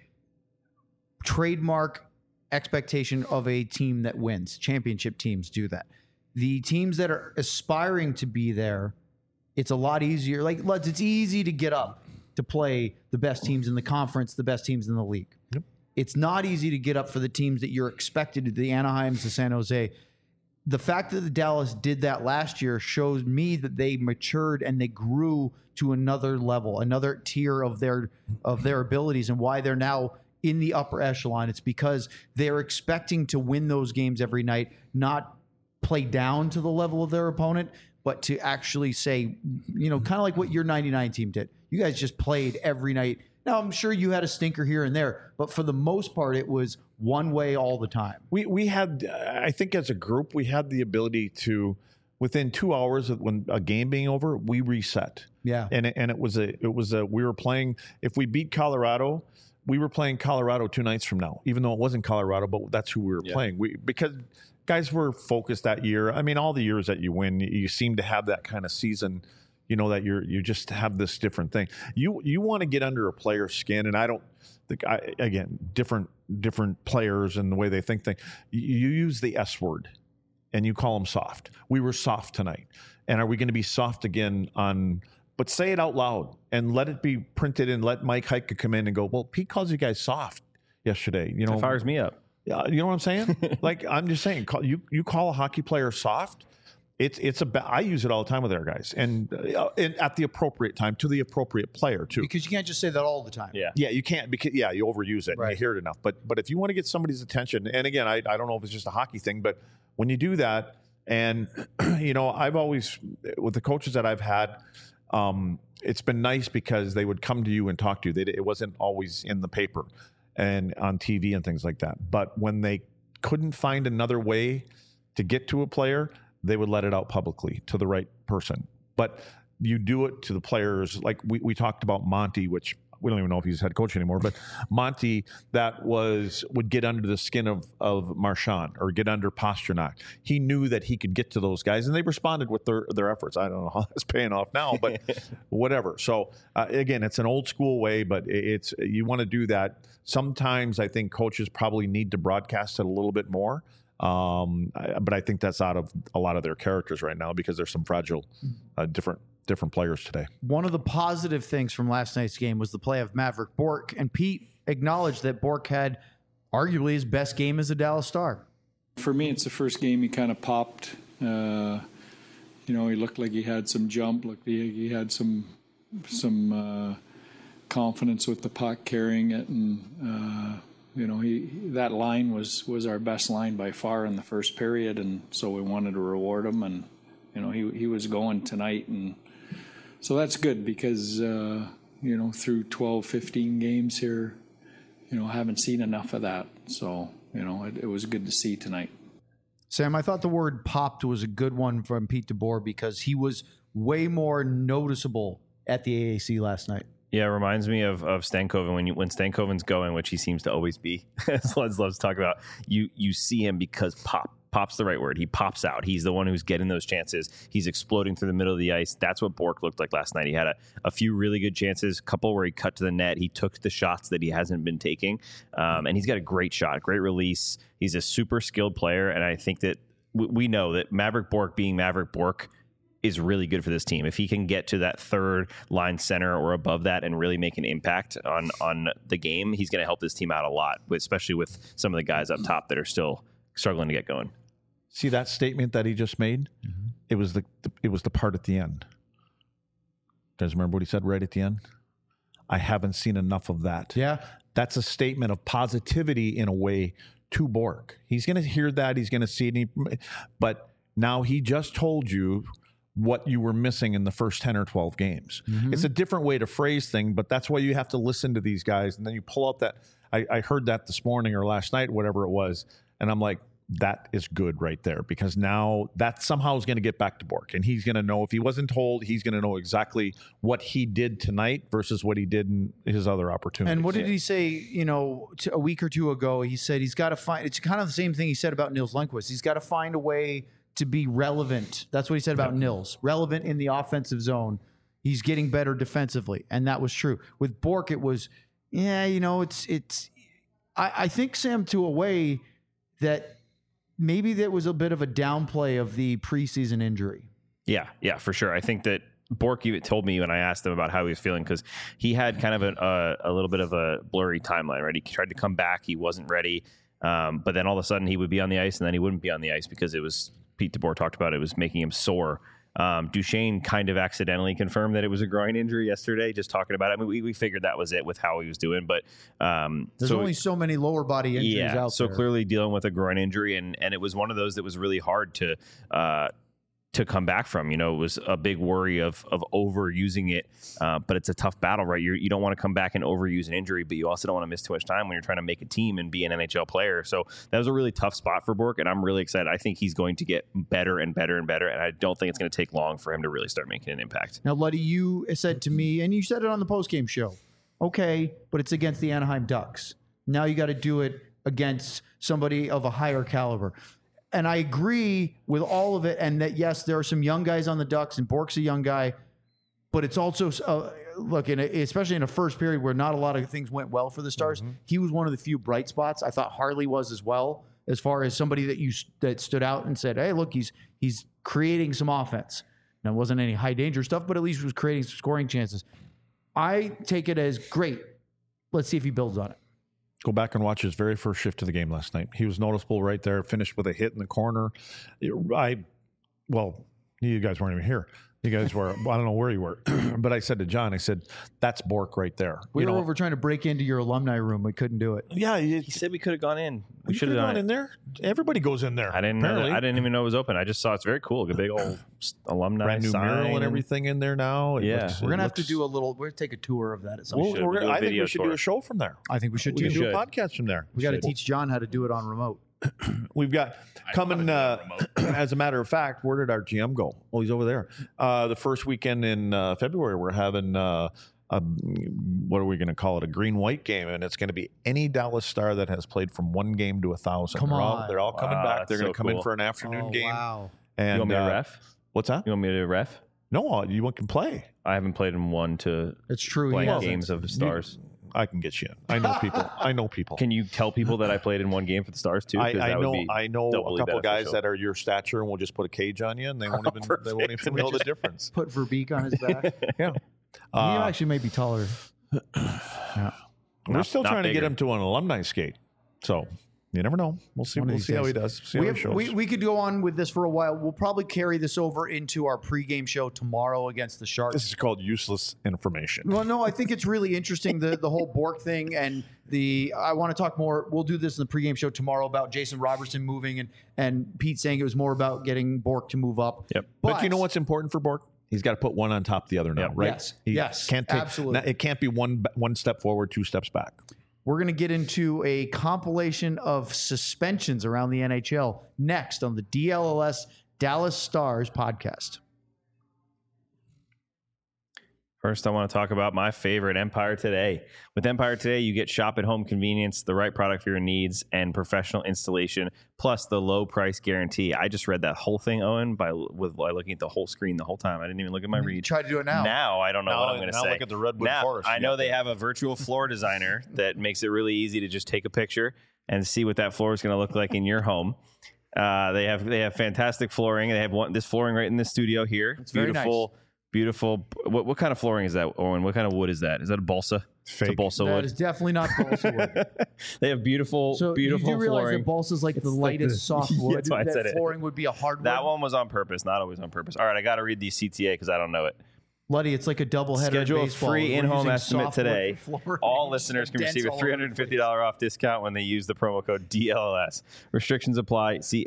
trademark expectation of a team that wins. Championship teams do that. The teams that are aspiring to be there, it's a lot easier. Like, it's easy to get up to play the best teams in the conference, the best teams in the league. Yep. It's not easy to get up for the teams that you're expected, the Anaheims, the San Jose. The fact that the Dallas did that last year shows me that they matured and they grew to another level, another tier of their abilities, and why they're now in the upper echelon. It's because they're expecting to win those games every night, not play down to the level of their opponent, but to actually say, kind of like what your 99 team did. You guys just played every night. Now, I'm sure you had a stinker here and there, but for the most part, it was one way all the time. We had, I think as a group, we had the ability to, within 2 hours of when a game being over, we reset. Yeah. And it was we were playing, if we beat Colorado, we were playing Colorado 2 nights from now, even though it wasn't Colorado, but that's who we were playing. Because guys were focused that year. I mean, all the years that you win, you seem to have that kind of season, that you just have this different thing. You want to get under a player's skin, and I don't think, again, different players and the way they think things. You use the S word, and you call them soft. We were soft tonight, and are we going to be soft again on? But say it out loud and let it be printed, and let Mike Heika come in and go, well, Pete calls you guys soft. yesterday. You know, That fires me up. you know what I'm saying? Like, I'm just saying, you call a hockey player soft. I use it all the time with our guys, and at the appropriate time to the appropriate player too. Because you can't just say that all the time. Yeah, you can't, because you overuse it. Right. And you hear it enough. But if you want to get somebody's attention, and again, I don't know if it's just a hockey thing, but when you do that, and you know, I've always, with the coaches that I've had, it's been nice because they would come to you and talk to you. It wasn't always in the paper and on TV and things like that. But when they couldn't find another way to get to a player, they would let it out publicly to the right person. But you do it to the players. Like we talked about Monty, which we don't even know if he's head coach anymore, but Monty, would get under the skin of Marchand or get under Pastrnak. He knew that he could get to those guys, and they responded with their efforts. I don't know how that's paying off now, but whatever. So again, it's an old school way, but you want to do that. Sometimes I think coaches probably need to broadcast it a little bit more. But I think that's out of a lot of their characters right now, because there's some fragile, different players today. One of the positive things from last night's game was the play of Maverick Bourque, and Pete acknowledged that Bourque had arguably his best game as a Dallas Star. For me, it's the first game he kind of popped. You know, he looked like he had some jump, looked like he had some confidence with the puck, carrying it, and you know, that line was our best line by far in the first period, and so we wanted to reward him, and you know, he was going tonight, and so that's good, because you know, through 12, 15 games here, you know, I haven't seen enough of that, so you know, it was good to see tonight. Sam, I thought the word popped was a good one from Pete DeBoer, because he was way more noticeable at the AAC last night. Yeah, it reminds me of Stankoven when Stankoven's going, which he seems to always be. As Leds loves to talk about, you see him because pop's the right word. He pops out. He's the one who's getting those chances. He's exploding through the middle of the ice. That's what Bourque looked like last night. He had a few really good chances, a couple where he cut to the net. He took the shots that he hasn't been taking, and he's got a great shot, great release. He's a super skilled player, and I think that we know that Maverick Bourque, being Maverick Bourque, is really good for this team. If he can get to that third line center or above that and really make an impact on the game, he's going to help this team out a lot, especially with some of the guys up top that are still struggling to get going. See that statement that he just made? Mm-hmm. It was the part at the end. You guys remember what he said right at the end? I haven't seen enough of that. Yeah. That's a statement of positivity in a way to Bourque. He's going to hear that. He's going to see it. But now he just told you what you were missing in the first 10 or 12 games. Mm-hmm. It's a different way to phrase things, but that's why you have to listen to these guys. And then you pull out that, I heard that this morning or last night, whatever it was. And I'm like, that is good right there, because now that somehow is going to get back to Bourque, and he's going to know, if he wasn't told, he's going to know exactly what he did tonight versus what he did in his other opportunities. And what did he say, you know, a week or two ago? He said he's got to find, it's kind of the same thing he said about Nils Lundkvist. He's got to find a way to be relevant. That's what he said about Nils. Relevant in the offensive zone. He's getting better defensively. And that was true. With Bourque, it was, you know, I think, Sam, to a way that maybe there was a bit of a downplay of the preseason injury. Yeah, for sure. I think that Bourque even told me when I asked him about how he was feeling, because he had kind of a little bit of a blurry timeline, right? He tried to come back. He wasn't ready. But then all of a sudden he would be on the ice, and then he wouldn't be on the ice because it was, Pete DeBoer talked about, it was making him sore. Duchesne kind of accidentally confirmed that it was a groin injury yesterday, just talking about it. I mean, we figured that was it with how he was doing, but there's only so many lower body injuries out there. So clearly dealing with a groin injury, and it was one of those that was really hard to come back from. You know, it was a big worry of overusing it, but it's a tough battle, right? You don't want to come back and overuse an injury, but you also don't want to miss too much time when you're trying to make a team and be an NHL player. So that was a really tough spot for Bourque, and I'm really excited. I think he's going to get better and better and better, and I don't think it's going to take long for him to really start making an impact. Now, Luddy, you said to me, and you said it on the postgame show, okay, but it's against the Anaheim Ducks. Now you got to do it against somebody of a higher caliber. And I agree with all of it, and that, yes, there are some young guys on the Ducks, and Bourque's a young guy, but it's also, look, especially in a first period where not a lot of things went well for the Stars, he was one of the few bright spots. I thought Harley was as well, as far as somebody that stood out and said, hey, look, he's creating some offense. Now, it wasn't any high-danger stuff, but at least he was creating some scoring chances. I take it as great. Let's see if he builds on it. Go back and watch his very first shift of the game last night. He was noticeable right there. Finished with a hit in the corner. Well, you guys weren't even here. You guys were, I don't know where you were, but I said to John, I said, that's Bourque right there. We were over trying to break into your alumni room. We couldn't do it. Yeah. He said we could have gone in. We should have gone in there. Everybody goes in there. I didn't know. I didn't even know it was open. I just saw it's very cool. A big old alumni brand new sign mural and everything in there now. We're going to have to do a little, we're going to take a tour of that at some point. I think we should do a show from there. I think we should We should do a podcast from there. We got to teach John how to do it on remote. We've got coming, as a matter of fact, where did our GM go? Oh, he's over there. The first weekend in February, we're having, what are we going to call it? A green-white game, and it's going to be any Dallas Star that has played from 1 game to 1,000. Come on. They're all coming back. They're going to come in cool. for an afternoon game. Wow. And, you want me to ref? What's that? You want me to ref? No, you can play. I haven't played in 1 to It's true. blank games of the Stars. I can get you in. I know people. I know people. Can you tell people that I played in 1 game for the Stars too? I know a couple of guys beneficial. that are your stature, and we'll just put a cage on you, and they won't even know the difference. Put Verbeek on his back. Yeah, he actually may be taller. We're still trying to get bigger. him to an alumni skate, so you never know. We'll see. We'll see how he does. See how he shows. We could go on with this for a while. We'll probably carry this over into our pregame show tomorrow against the Sharks. This is called useless information. Well, no, I think it's really interesting, the whole Bourque thing, and I want to talk more. We'll do this in the pregame show tomorrow about Jason Robertson moving and Pete saying it was more about getting Bourque to move up. Yep. But you know what's important for Bourque? He's got to put one on top of the other now, right? Yes. He Yes, can't take, absolutely. It can't be one step forward, 2 steps back. We're going to get into a compilation of suspensions around the NHL next on the DLLS Dallas Stars podcast. First, I want to talk about my favorite, Empire Today. With Empire Today, you get shop at home convenience, the right product for your needs, and professional installation, plus the low price guarantee. I just read that whole thing, Owen, by looking at the whole screen the whole time. I didn't even look at my read. Try to do it now. Now I don't know what I'm going to say. Now look at the Redwood Forest. I know they have a virtual floor designer that makes it really easy to just take a picture and see what that floor is going to look like in your home. They have fantastic flooring. They have this flooring right in the studio here. It's beautiful. Very nice. Beautiful. What kind of flooring is that, Owen? What kind of wood is that? Is that a balsa? Fake. It's a balsa That wood. is definitely not balsa wood. They have beautiful So flooring. you do realize that balsa is like the lightest soft wood. That's why I said it. Flooring would be a hardwood. That one was on purpose, not always on purpose. All right, I got to read the CTA because I don't know it. Luddy, it's like a double header. Schedule a baseball. free We're in-home using estimate softwood today. for flooring. All listeners can Dents receive a all over the $350 off discount when they use the promo code DLLS. Restrictions apply. See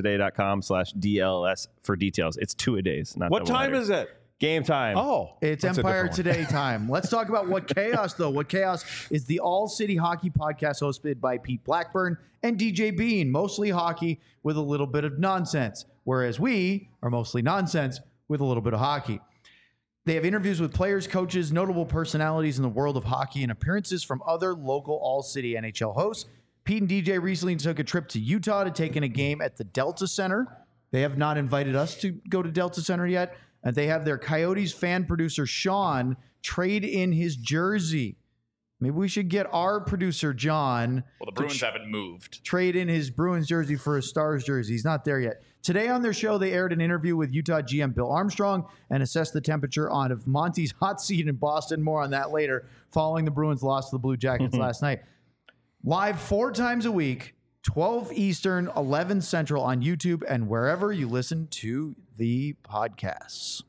empiretoday.com/DLLS for details. It's 2-a-days, not What time is it? Game time. Oh, It's that's a Empire different one. Today time. Let's talk about What Chaos, though. What Chaos is the all-city hockey podcast hosted by Pete Blackburn and DJ Bean. Mostly hockey with a little bit of nonsense, whereas we are mostly nonsense with a little bit of hockey. They have interviews with players, coaches, notable personalities in the world of hockey, and appearances from other local all-city NHL hosts. Pete and DJ recently took a trip to Utah to take in a game at the Delta Center. They have not invited us to go to Delta Center yet. And they have their Coyotes fan producer, Sean, trade in his jersey. Maybe we should get our producer, John, Well, the Bruins haven't moved. trade in his Bruins jersey for a Stars jersey. He's not there yet. Today on their show, they aired an interview with Utah GM Bill Armstrong and assessed the temperature on of Monty's hot seat in Boston. More on that later, following the Bruins' loss to the Blue Jackets last night. Live 4 times a week, 12 Eastern, 11 Central on YouTube and wherever you listen to the podcasts.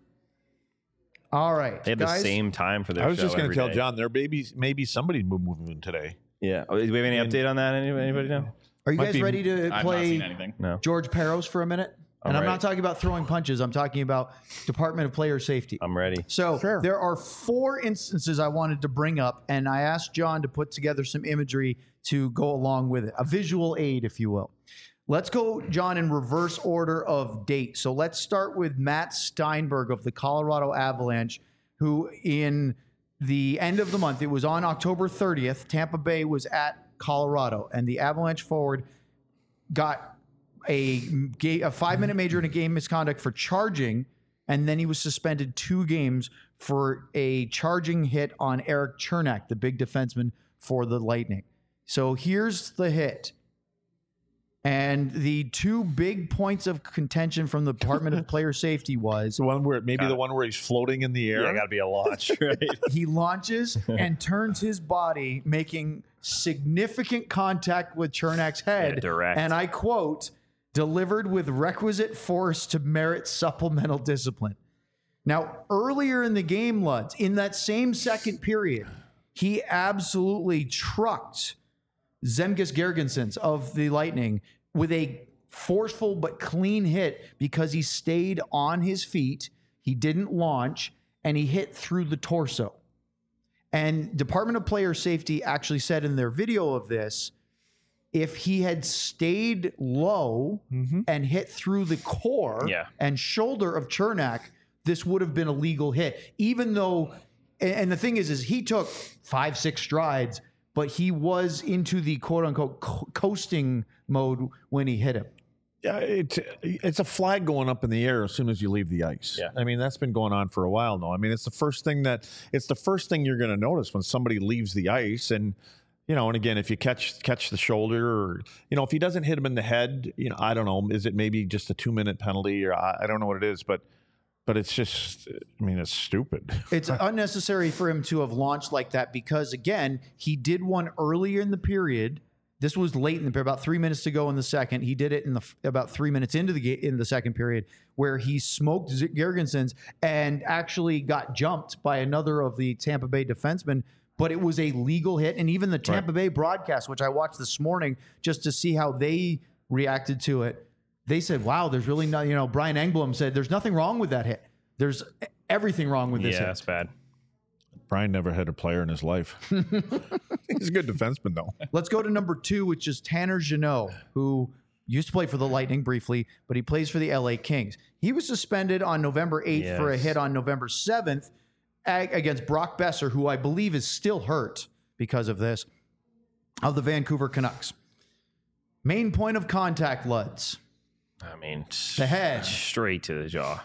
All right, They have guys. the same time for their show. I was just going to every tell day. John, there maybe somebody moving today. Yeah. Oh, do we have any update on that? Anybody know? Are you Might guys be- ready to I've not play seen anything. No. George Peros for a minute? And I'm ready. not talking about throwing punches. I'm talking about Department of Player Safety. I'm ready. So there are 4 instances I wanted to bring up, and I asked John to put together some imagery to go along with it, a visual aid, if you will. Let's go, John, in reverse order of date. So let's start with Matt Steinberg of the Colorado Avalanche, who in the end of the month, it was on October 30th, Tampa Bay was at Colorado, and the Avalanche forward got a 5-minute major and a game misconduct for charging, and then he was suspended 2 games for a charging hit on Eric Chernak, the big defenseman for the Lightning. So here's the hit. And the 2 big points of contention from the Department of Player Safety was The one where the one where he's floating in the air. Yeah, got to be a launch, right? he launches and turns his body, making significant contact with Cernak's head. Yeah, direct. And I quote, delivered with requisite force to merit supplemental discipline. Now, earlier in the game, Luds, in that same second period, he absolutely trucked Zemgus Girgensons of the Lightning with a forceful but clean hit because he stayed on his feet, he didn't launch, and he hit through the torso. And Department of Player Safety actually said in their video of this, if he had stayed low and hit through the core and shoulder of Cernak, this would have been a legal hit. Even though, and the thing is he took 5-6 strides, but he was into the quote-unquote coasting mode when he hit him. Yeah, it's a flag going up in the air as soon as you leave the ice. Yeah. I mean, that's been going on for a while now. I mean, it's the first thing you're going to notice when somebody leaves the ice. And, you know, and again, if you catch the shoulder, or, you know, if he doesn't hit him in the head, you know, I don't know, is it maybe just a 2-minute penalty, or I don't know what it is, but it's just, I mean, it's stupid. It's unnecessary for him to have launched like that because, again, he did one earlier in the period. This was late in the period, about 3 minutes to go in the second. He did it in about 3 minutes into the second period, where he smoked Girgensons and actually got jumped by another of the Tampa Bay defensemen. But it was a legal hit, and even the Tampa Bay broadcast, which I watched this morning just to see how they reacted to it, they said, "Wow, there's really not." You know, Brian Engblom said, "There's nothing wrong with that hit. There's everything wrong with this hit." Yeah, that's bad. Brian never had a player in his life. He's a good defenseman, though. Let's go to number 2, which is Tanner Jeannot, who used to play for the Lightning briefly, but he plays for the LA Kings. He was suspended on November 8th for a hit on November 7th against Brock Besser, who I believe is still hurt because of this, of the Vancouver Canucks. Main point of contact, Luds. I mean, the head. Straight to the jaw.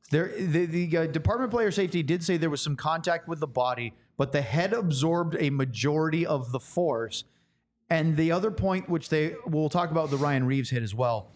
The Department of Player Safety did say there was some contact with the body, but the head absorbed a majority of the force. And the other point, which we'll talk about the Ryan Reeves hit as well,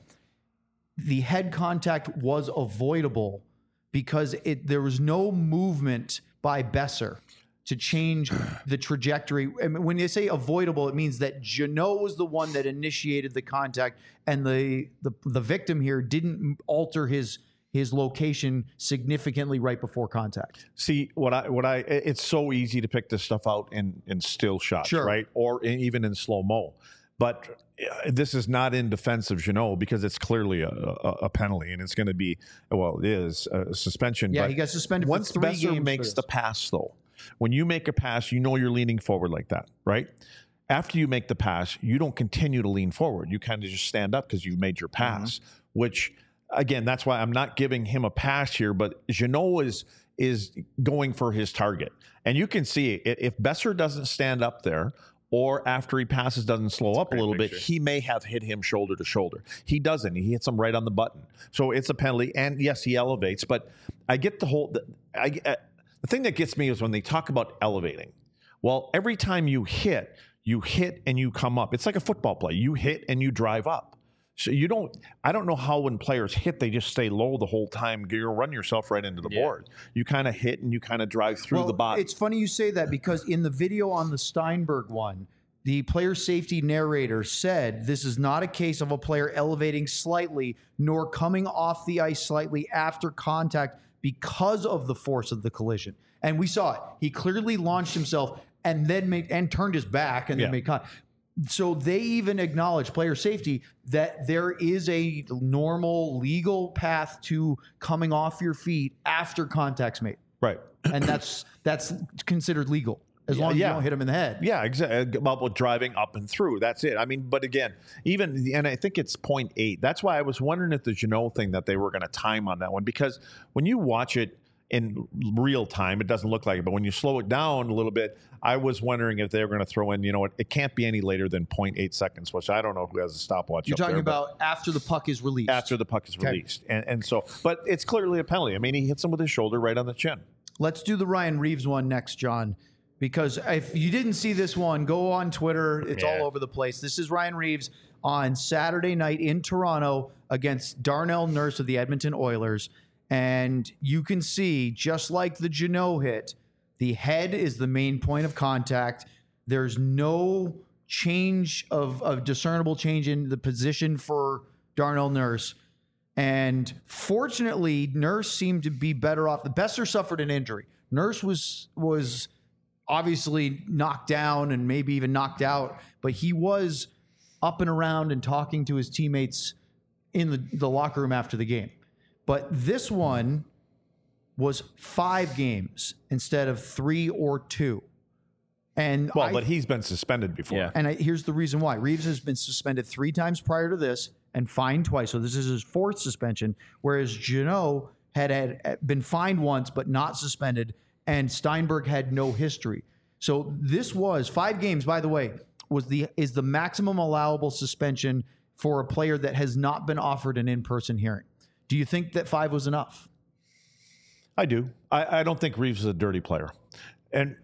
the head contact was avoidable because there was no movement by Besser to change the trajectory. I mean, when they say avoidable, it means that Jeannot was the one that initiated the contact, and the victim here didn't alter his location significantly right before contact. See, it's so easy to pick this stuff out in still shots, right? Or even in slow-mo. But this is not in defense of Jeannot because it's clearly a penalty, and it's going to be, well, it is a suspension. Yeah, but he got suspended once for 3 Besser games. makes the pass, though, when you make a pass, you know you're leaning forward like that, right? After you make the pass, you don't continue to lean forward. You kind of just stand up because you've made your pass, which... Again, that's why I'm not giving him a pass here, but Jeannot is going for his target. And you can see it. If Besser doesn't stand up there, or after he passes doesn't slow up a little bit, he may have hit him shoulder to shoulder. He doesn't. He hits him right on the button. So it's a penalty. And yes, he elevates. But I get the whole... the thing that gets me is when they talk about elevating. Well, every time you hit and you come up. It's like a football play. You hit and you drive up. So I don't know how when players hit, they just stay low the whole time. You'll run yourself right into the board. You kind of hit and you kind of drive through the bottom. It's funny you say that because in the video on the Steinberg one, the player safety narrator said this is not a case of a player elevating slightly nor coming off the ice slightly after contact because of the force of the collision. And we saw it. He clearly launched himself and then turned his back and then made contact. So they even acknowledge, player safety, that there is a normal legal path to coming off your feet after contact's made. Right. And that's considered legal as long as you don't hit him in the head. Yeah, exactly. About driving up and through. That's it. I mean, but again, and I think it's 0.8. That's why I was wondering if the Jeannot thing that they were going to time on that one, because when you watch it in real time, it doesn't look like it. But when you slow it down a little bit, I was wondering if they were going to throw in, it can't be any later than 0.8 seconds, which I don't know who has a stopwatch. You're talking about after the puck is released. After the puck is released. And so, but it's clearly a penalty. I mean, he hits him with his shoulder right on the chin. Let's do the Ryan Reeves one next, John, because if you didn't see this one, go on Twitter. It's all over the place. This is Ryan Reeves on Saturday night in Toronto against Darnell Nurse of the Edmonton Oilers. And you can see, just like the Jeannot hit, the head is the main point of contact. There's no change of discernible change in the position for Darnell Nurse. And fortunately, Nurse seemed to be better off. The Besser suffered an injury. Nurse was obviously knocked down and maybe even knocked out, but he was up and around and talking to his teammates in the locker room after the game. But this one was 5 games instead of 3 or 2. And but he's been suspended before. Yeah. And here's the reason why. Reeves has been suspended 3 times prior to this and fined twice. So this is his 4th suspension, whereas Jeannot had been fined once but not suspended, and Steinberg had no history. So this was 5 games, by the way, is the maximum allowable suspension for a player that has not been offered an in-person hearing. Do you think that 5 was enough? I do. I don't think Reeves is a dirty player. And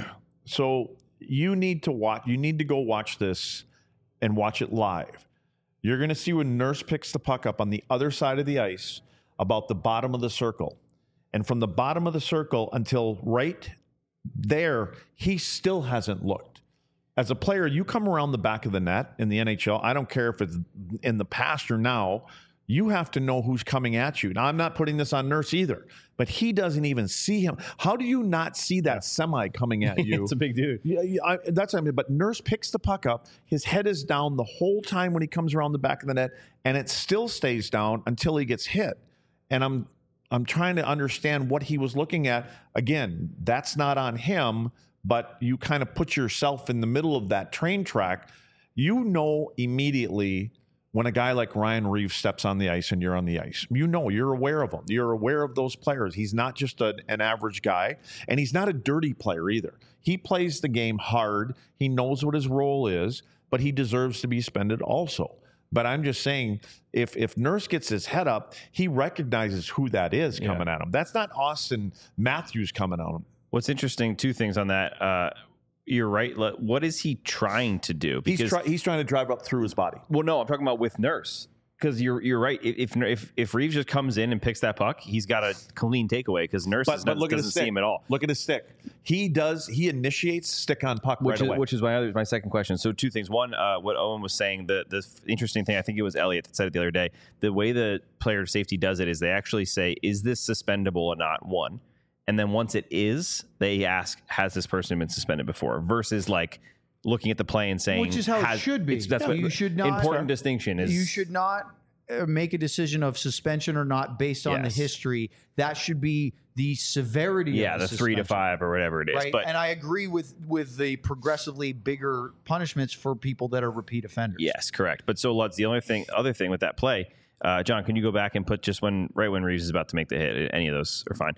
so you need to watch. You need to go watch this and watch it live. You're going to see when Nurse picks the puck up on the other side of the ice about the bottom of the circle. And from the bottom of the circle until right there, he still hasn't looked. As a player, you come around the back of the net in the NHL, I don't care if it's in the past or now, you have to know who's coming at you. Now, I'm not putting this on Nurse either, but he doesn't even see him. How do you not see that semi coming at you? It's a big dude. Yeah, that's what I mean. But Nurse picks the puck up. His head is down the whole time when he comes around the back of the net, and it still stays down until he gets hit. And I'm trying to understand what he was looking at. Again, that's not on him, but you kind of put yourself in the middle of that train track. You know immediately when a guy like Ryan Reeves steps on the ice and you're on the ice. You know, you're aware of him. You're aware of those players. He's not just an average guy, and he's not a dirty player either. He plays the game hard. He knows what his role is, but he deserves to be suspended also. But I'm just saying, if Nurse gets his head up, he recognizes who that is coming at him. That's not Austin Matthews coming at him. What's interesting, 2 things on that. You're right. What is he trying to do? Because he's trying to drive up through his body. Well, no, I'm talking about with Nurse. Because you're right. If Reeves just comes in and picks that puck, he's got a clean takeaway because Nurse doesn't see him at all. Look at his stick. He initiates stick on puck right away. Which is my second question. So 2 things. One, what Owen was saying, the interesting thing, I think it was Elliot that said it the other day, the way the player safety does it is they actually say, is this suspendable or not? 1. And then once it is, they ask, has this person been suspended before? Versus like looking at the play and saying, which is how it should be. That's what you should not. Important distinction is. You should not make a decision of suspension or not based on the history. That should be the severity. Yeah, of the 3 to 5 or whatever it is. Right? But, and I agree with the progressively bigger punishments for people that are repeat offenders. Yes, correct. But so Lutz, the other thing with that play, John, can you go back and put just when Reeves is about to make the hit? Any of those are fine.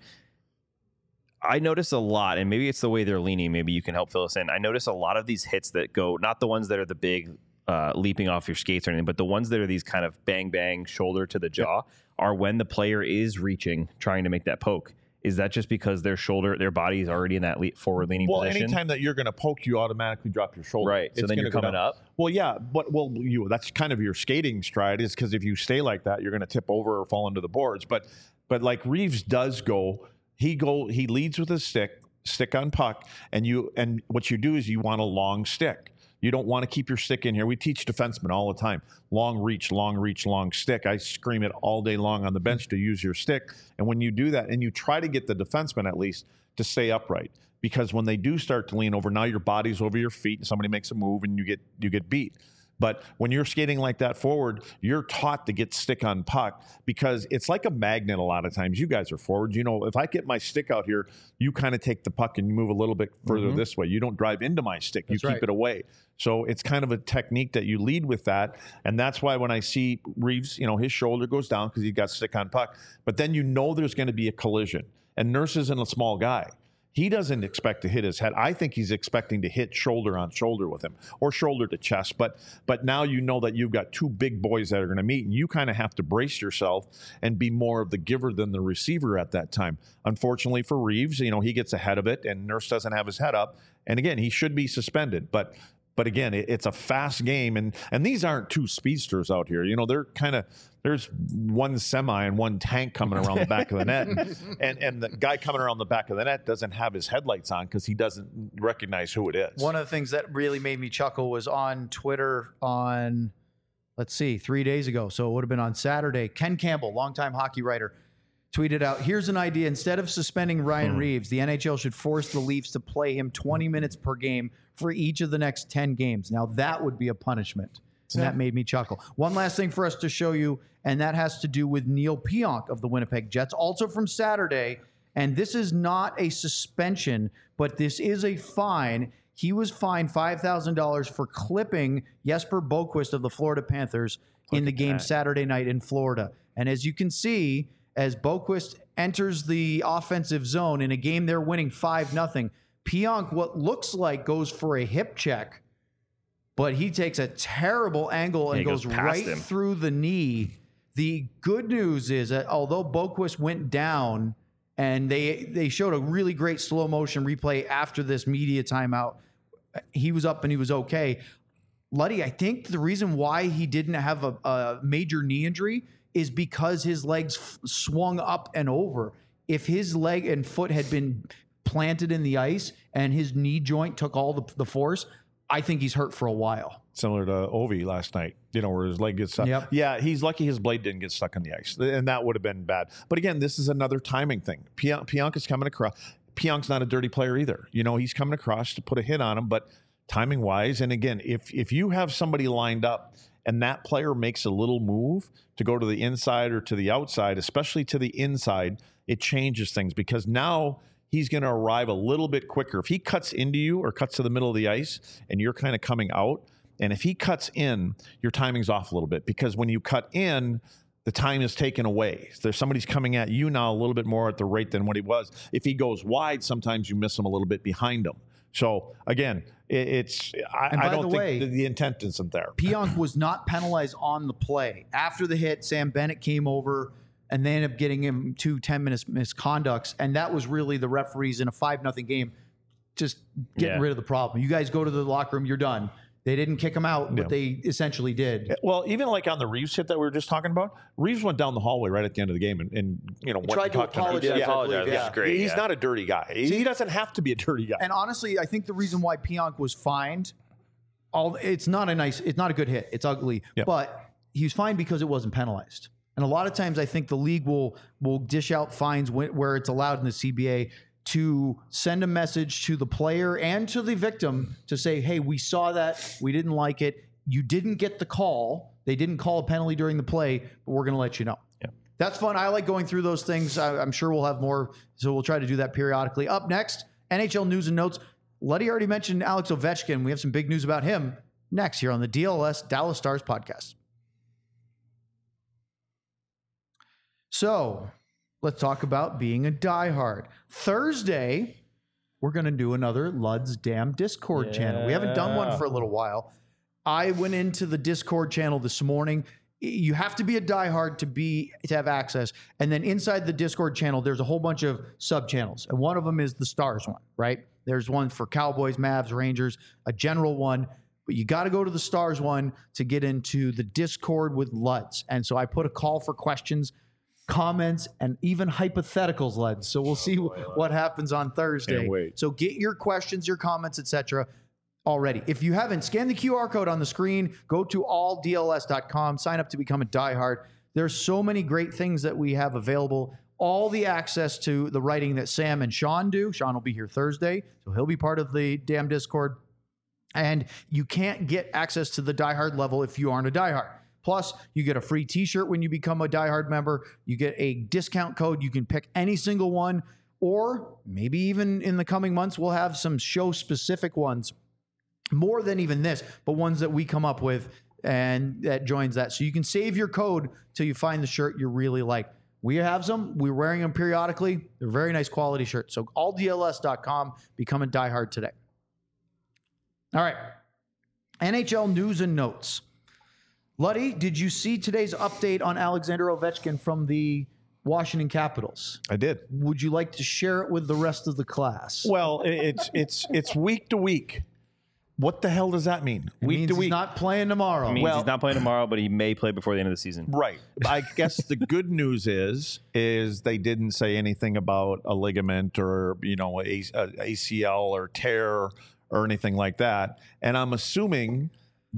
I notice a lot, and maybe it's the way they're leaning. Maybe you can help fill us in. I notice a lot of these hits that go, not the ones that are the big leaping off your skates or anything, but the ones that are these kind of bang, bang, shoulder to the jaw are when the player is reaching, trying to make that poke. Is that just because their body is already in that forward leaning position? Well, anytime that you're going to poke, you automatically drop your shoulder. Right. So then you're coming up. Well, yeah, but that's kind of your skating stride, is because if you stay like that, you're going to tip over or fall into the boards. But like Reeves does go. He leads with his stick on puck, and what you do is you want a long stick. You don't want to keep your stick in here. We teach defensemen all the time. Long reach, long stick. I scream it all day long on the bench to use your stick. And when you do that, and you try to get the defenseman at least to stay upright, because when they do start to lean over, now your body's over your feet and somebody makes a move and you get beat. But when you're skating like that forward, you're taught to get stick on puck because it's like a magnet a lot of times. You guys are forwards. You know, if I get my stick out here, you kind of take the puck and you move a little bit further this way. You don't drive into my stick. You keep it away. So it's kind of a technique that you lead with that. And that's why when I see Reeves, his shoulder goes down because he got stick on puck. But then there's going to be a collision. And Nurse isn't a small guy. He doesn't expect to hit his head. I think he's expecting to hit shoulder on shoulder with him or shoulder to chest. But now you know that you've got 2 big boys that are going to meet, and you kind of have to brace yourself and be more of the giver than the receiver at that time. Unfortunately for Reeves, he gets ahead of it, and Nurse doesn't have his head up. And again, he should be suspended. But But again, it's a fast game, and these aren't two speedsters out here. They're kind of, there's one semi and one tank coming around the back of the net, and the guy coming around the back of the net doesn't have his headlights on because he doesn't recognize who it is. One of the things that really made me chuckle was on Twitter on, 3 days ago. So it would have been on Saturday. Ken Campbell, longtime hockey writer, tweeted out, here's an idea. Instead of suspending Ryan Reeves, the NHL should force the Leafs to play him 20 minutes per game for each of the next 10 games. Now, that would be a punishment. And that made me chuckle. One last thing for us to show you, and that has to do with Neil Pionk of the Winnipeg Jets, also from Saturday. And this is not a suspension, but this is a fine. He was fined $5,000 for clipping Jesper Boquist of the Florida Panthers in the game Saturday night in Florida. And as you can see, as Boquist enters the offensive zone in a game they're winning 5-0, Pionk, what looks like, goes for a hip check, but he takes a terrible angle and goes right through the knee. The good news is that although Boquist went down, and they showed a really great slow motion replay after this media timeout, he was up and he was okay. Luddy, I think the reason why he didn't have a major knee injury is because his legs swung up and over. If his leg and foot had been planted in the ice and his knee joint took all the force, I think he's hurt for a while. Similar to Ovi last night, where his leg gets stuck. Yep. Yeah, he's lucky his blade didn't get stuck on the ice, and that would have been bad. But again, this is another timing thing. Pionk is coming across. Pionk's not a dirty player either. He's coming across to put a hit on him, but timing-wise, and again, if you have somebody lined up and that player makes a little move to go to the inside or to the outside, especially to the inside, it changes things because now he's going to arrive a little bit quicker. If he cuts into you or cuts to the middle of the ice and you're kind of coming out, and if he cuts in, your timing's off a little bit because when you cut in, the time is taken away. There's somebody's coming at you now a little bit more at the rate than what he was. If he goes wide, sometimes you miss him a little bit behind him. So again, I don't think the intent isn't there. Pionk was not penalized on the play. After the hit, Sam Bennett came over and they ended up getting him 2 10-minute misconducts. And that was really the referees in a 5-0 game just getting rid of the problem. You guys go to the locker room, you're done. They didn't kick him out, but they essentially did. Well, even like on the Reeves hit that we were just talking about, Reeves went down the hallway right at the end of the game and went tried to apologize. Yeah. Great. He's not a dirty guy. He doesn't have to be a dirty guy. And honestly, I think the reason why Pionk was fined, it's not a good hit. It's ugly, but he was fined because it wasn't penalized. And a lot of times, I think the league will dish out fines where it's allowed in the CBA to send a message to the player and to the victim to say, hey, we saw that. We didn't like it. You didn't get the call. They didn't call a penalty during the play, but we're going to let you know. Yeah. That's fun. I like going through those things. I'm sure we'll have more, so we'll try to do that periodically. Up next, NHL news and notes. Luddy already mentioned Alex Ovechkin. We have some big news about him next here on the DLS Dallas Stars podcast. So let's talk about being a diehard. Thursday, we're going to do another Lud's Damn Discord channel. We haven't done one for a little while. I went into the Discord channel this morning. You have to be a diehard to have access. And then inside the Discord channel, there's a whole bunch of sub-channels. And one of them is the Stars one, right? There's one for Cowboys, Mavs, Rangers, a general one. But you got to go to the Stars one to get into the Discord with Luds. And so I put a call for questions, comments, and even hypotheticals, Led. So we'll see what happens on Thursday. Can't wait. So get your questions, your comments, etc. already. If you haven't, scan the QR code on the screen, go to alldls.com, sign up to become a diehard. There's so many great things that we have available. All the access to the writing that Sam and Sean do. Sean will be here Thursday, so he'll be part of the damn Discord. And you can't get access to the diehard level if you aren't a diehard. Plus, you get a free t-shirt when you become a diehard member. You get a discount code. You can pick any single one, or maybe even in the coming months, we'll have some show-specific ones, more than even this, but ones that we come up with, and that joins that. So you can save your code till you find the shirt you really like. We have some. We're wearing them periodically. They're very nice quality shirts. So alldls.com, become a diehard today. All right. NHL news and notes. Luddy, did you see today's update on Alexander Ovechkin from the Washington Capitals? I did. Would you like to share it with the rest of the class? Well, it's week to week. What the hell does that mean? Week to week. He's not playing tomorrow. It means he's not playing tomorrow, but he may play before the end of the season. Right. I guess the good news is they didn't say anything about a ligament or, a ACL or tear or anything like that. And I'm assuming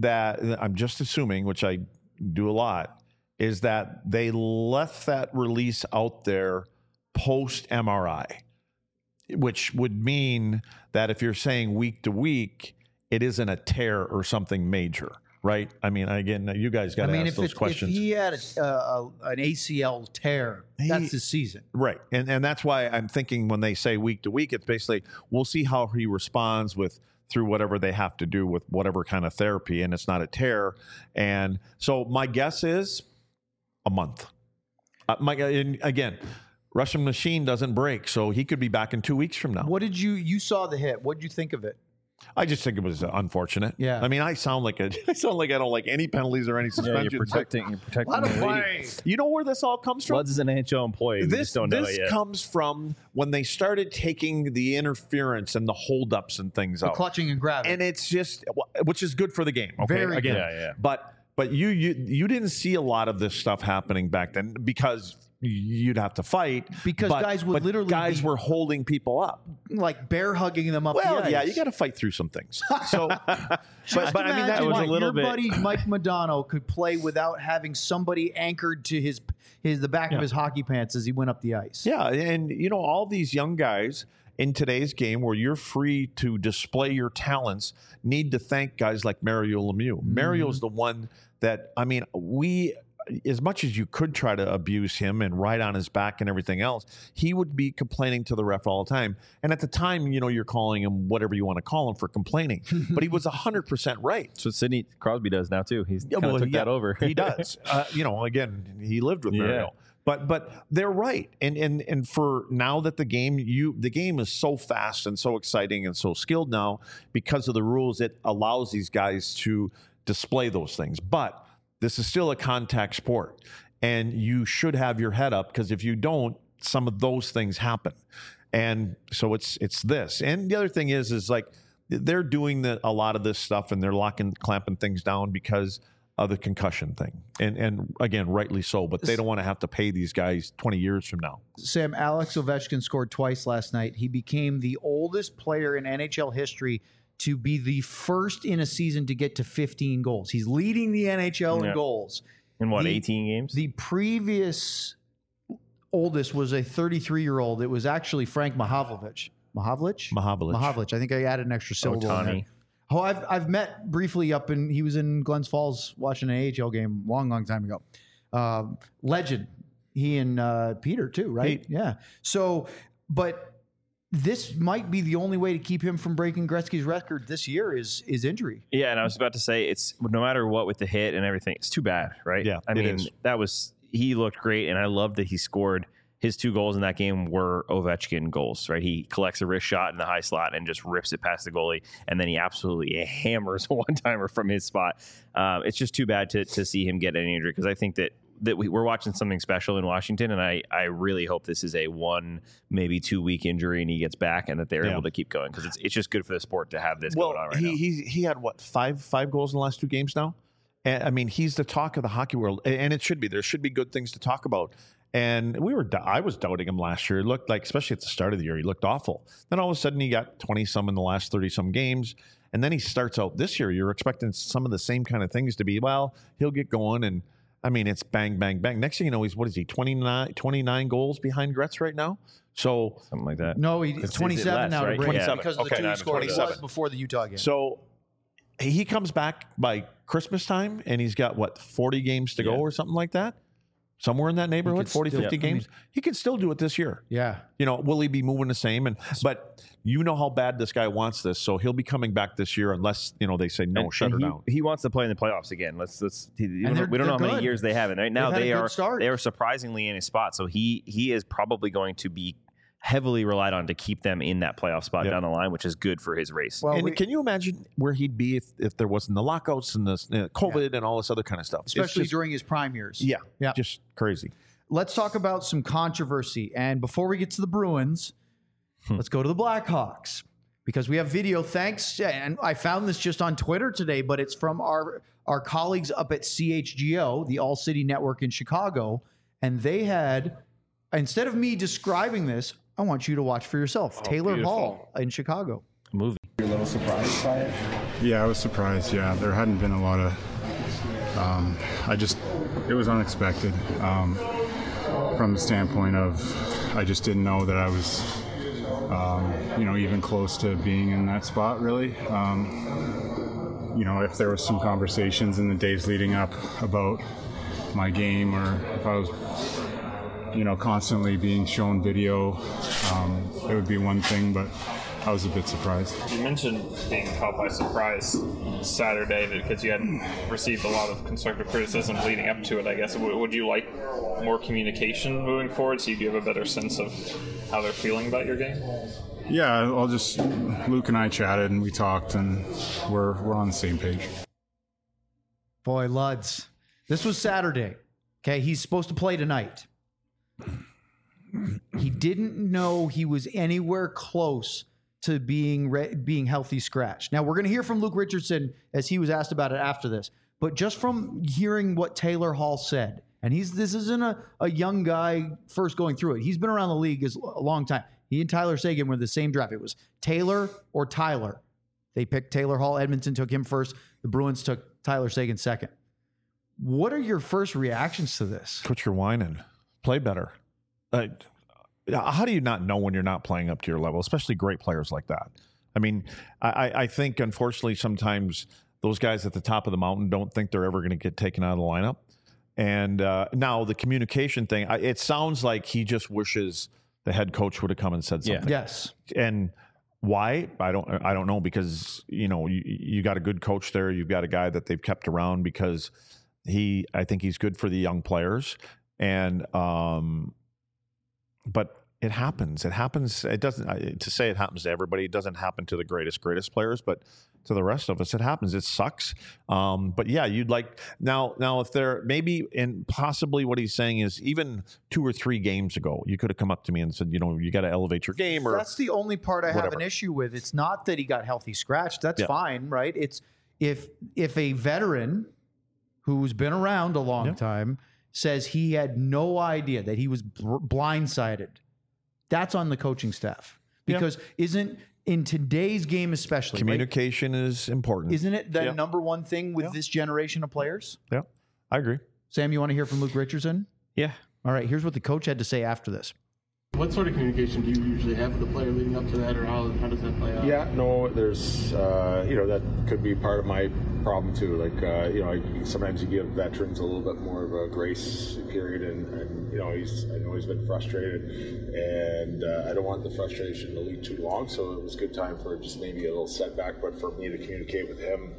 which I do a lot, is that they left that release out there post MRI, which would mean that if you're saying week to week, it isn't a tear or something major, right? I mean, again, you guys got to ask those questions. If he had an ACL tear, that's his season. Right. And that's why I'm thinking when they say week to week, it's basically we'll see how he responds through whatever they have to do with whatever kind of therapy, and it's not a tear. And so my guess is a month. Again, Russian machine doesn't break, so he could be back in 2 weeks from now. What did you saw the hit? What did you think of it? I just think it was unfortunate. Yeah. I mean, I sound like I don't like any penalties or any suspensions. You're protecting the lady. You know where this all comes from? Woods is an NHL employee. This don't know it yet. comes from when they started taking the interference and the holdups and things out. Clutching and grabbing. And it's just, which is good for the game. Okay? Very Again, good. Yeah. But you didn't see a lot of this stuff happening back then because you'd have to fight. Because guys would literally were holding people up. Like bear hugging them up Well, the ice. yeah, you got to fight through some things. So, but I mean, that was a little bit. Your buddy Mike Modano could play without having somebody anchored to the back of his hockey pants as he went up the ice. Yeah, and all these young guys in today's game where you're free to display your talents need to thank guys like Mario Lemieux. Mm-hmm. Mario's the one that, I mean, as much as you could try to abuse him and ride on his back and everything else, he would be complaining to the ref all the time. And at the time, you're calling him whatever you want to call him for complaining. But he was 100% right. So Sidney Crosby does now, too. He's took that over. He does. Again, he lived with Mario. But they're right. And for now that the game is so fast and so exciting and so skilled now, because of the rules, it allows these guys to display those things. But this is still a contact sport, and you should have your head up, because if you don't, some of those things happen. And so it's this. And the other thing is like they're doing a lot of this stuff, and they're clamping things down because of the concussion thing. And again, rightly so, but they don't want to have to pay these guys 20 years from now. Sam, Alex Ovechkin scored twice last night. He became the oldest player in NHL history to be the first in a season to get to 15 goals. He's leading the NHL in goals. In 18 games? The previous oldest was a 33-year-old. It was actually Frank Mahovlich. Mahovlich. I think I added an extra syllable in there. Oh, I've met briefly he was in Glens Falls watching an AHL game long time ago. Legend. He and Peter too, right? Yeah. So, but this might be the only way to keep him from breaking Gretzky's record this year is injury. Yeah, and I was about to say, it's no matter what with the hit and everything, it's too bad, right? Yeah, I mean, he looked great, and I love that he scored. His 2 goals in that game were Ovechkin goals, right? He collects a wrist shot in the high slot and just rips it past the goalie, and then he absolutely hammers a one-timer from his spot. It's just too bad to see him get any injury, because I think that we're watching something special in Washington, and I really hope this is a 1, maybe 2 week injury and he gets back, and that they're able to keep going, because it's just good for the sport to have this going on right now. He had five goals in the last 2 games now, and I mean he's the talk of the hockey world, and it should be. There should be good things to talk about. And I was doubting him last year. It looked like, especially at the start of the year, he looked awful. Then all of a sudden he got 20 some in the last 30 some games. And then he starts out this year. You're expecting some of the same kind of things to be, well, he'll get going. And I mean, it's bang, bang, bang. Next thing you know, he's 29 goals behind Gretz right now. So something like that. No, he's 27 now, right? 27 because of the 2 he scored. He was before the Utah game. So he comes back by Christmas time, and he's got 40 games to go or something like that. Somewhere in that neighborhood, 40, 50 games. He can still do it this year. Yeah. Will he be moving the same? But you know how bad this guy wants this, so he'll be coming back this year unless, they say no, shut her down. He wants to play in the playoffs again. We don't know how many years they have. And right now they are surprisingly in a spot. So he is probably going to be heavily relied on to keep them in that playoff spot down the line, which is good for his race. Well, and can you imagine where he'd be if there wasn't the lockouts and the COVID and all this other kind of stuff? Especially during his prime years. Yeah. Just crazy. Let's talk about some controversy. And before we get to the Bruins, let's go to the Blackhawks. because we have video. Thanks. And I found this just on Twitter today, but it's from our colleagues up at CHGO, the All City Network in Chicago. And they had, instead of me describing this, I want you to watch for yourself. Taylor beautiful. Hall in Chicago. Movie. You're a little surprised by it? Yeah, I was surprised. Yeah, there hadn't been a lot of. It was unexpected from the standpoint of I just didn't know that I was, even close to being in that spot. Really, if there was some conversations in the days leading up about my game, or if I was, constantly being shown video, it would be one thing, but I was a bit surprised. You mentioned being caught by surprise Saturday because you hadn't received a lot of constructive criticism leading up to it, I guess. Would you like more communication moving forward so you have a better sense of how they're feeling about your game? Yeah, Luke and I chatted and we talked, and we're on the same page. Boy, Luds. This was Saturday. Okay, he's supposed to play tonight. He didn't know he was anywhere close to being healthy scratched. Now, we're going to hear from Luke Richardson as he was asked about it after this. But just from hearing what Taylor Hall said, and this isn't a young guy first going through it. He's been around the league a long time. He and Tyler Seguin were the same draft. It was Taylor or Tyler. They picked Taylor Hall. Edmonton took him first. The Bruins took Tyler Seguin second. What are your first reactions to this? Quit your whining. Play better. How do you not know when you're not playing up to your level, especially great players like that? I mean, I think, unfortunately, sometimes those guys at the top of the mountain don't think they're ever going to get taken out of the lineup. And now the communication thing, it sounds like he just wishes the head coach would have come and said something. Yeah. Yes. And why? I don't know, because, you got a good coach there. You've got a guy that they've kept around because I think he's good for the young players. And, but it happens. It happens. It doesn't, to say it happens to everybody, it doesn't happen to the greatest players, but to the rest of us, it happens. It sucks. But yeah, you'd like now if there maybe, and possibly what he's saying is even 2 or 3 games ago, you could have come up to me and said, you got to elevate your game. Or that's the only part I have an issue with. It's not that he got healthy scratched. That's fine, right? It's if a veteran who's been around a long time says he had no idea, that he was blindsided, that's on the coaching staff. Because isn't, in today's game especially, communication is important. Isn't it the number one thing with this generation of players? Yeah, I agree. Sam, you want to hear from Luke Richardson? Yeah. All right, here's what the coach had to say after this. What sort of communication do you usually have with the player leading up to that, or how does that play out? Yeah, no, there's, that could be part of my problem too. Like, sometimes you give veterans a little bit more of a grace period, and I know he's been frustrated, and I don't want the frustration to lead too long, so it was a good time for just maybe a little setback, but for me to communicate with him,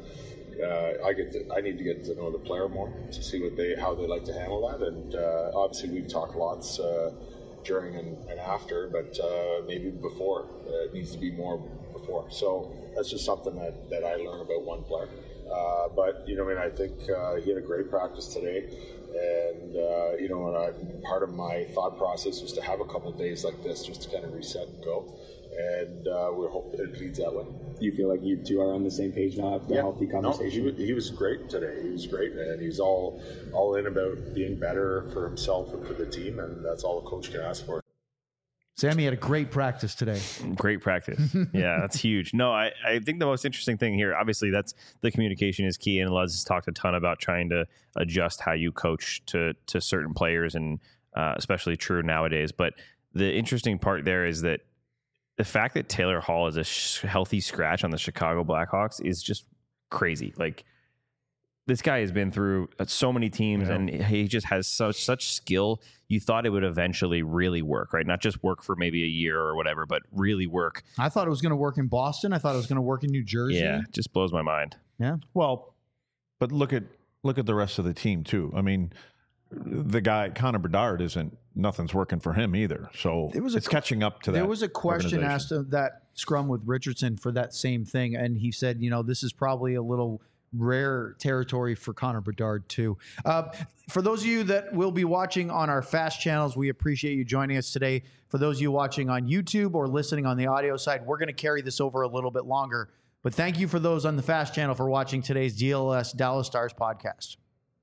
I need to get to know the player more to see how they like to handle that, and obviously we've talked lots during and after, but maybe before. It needs to be more before. So that's just something that I learn about one player. But I think he had a great practice today, and part of my thought process was to have a couple days like this just to kind of reset and go. And we hope it leads that way. Do you feel like you two are on the same page now? The healthy conversation. No, he was great today. He was great, and he's all in about being better for himself and for the team, and that's all a coach can ask for. Sammy had a great practice today. Great practice. Yeah, that's huge. No, I think the most interesting thing here, obviously, that's the communication is key, and Luz has talked a ton about trying to adjust how you coach to certain players, and especially true nowadays. But the interesting part there is that the fact that Taylor Hall is a healthy scratch on the Chicago Blackhawks is just crazy. Like, this guy has been through so many teams, and he just has such skill. You thought it would eventually really work, right? Not just work for maybe a year or whatever, but really work. I thought it was going to work in Boston. I thought it was going to work in New Jersey. Yeah, it just blows my mind. Yeah. Well, but look at the rest of the team too. I mean, the guy Connor Bedard nothing's working for him either. So it's catching up to that. There was a question asked of that scrum with Richardson for that same thing, and he said, this is probably a little rare territory for Connor Bedard too. For those of you that will be watching on our FAST channels, we appreciate you joining us today. For those of you watching on YouTube or listening on the audio side, we're going to carry this over a little bit longer. But thank you for those on the FAST channel for watching today's DLS Dallas Stars podcast.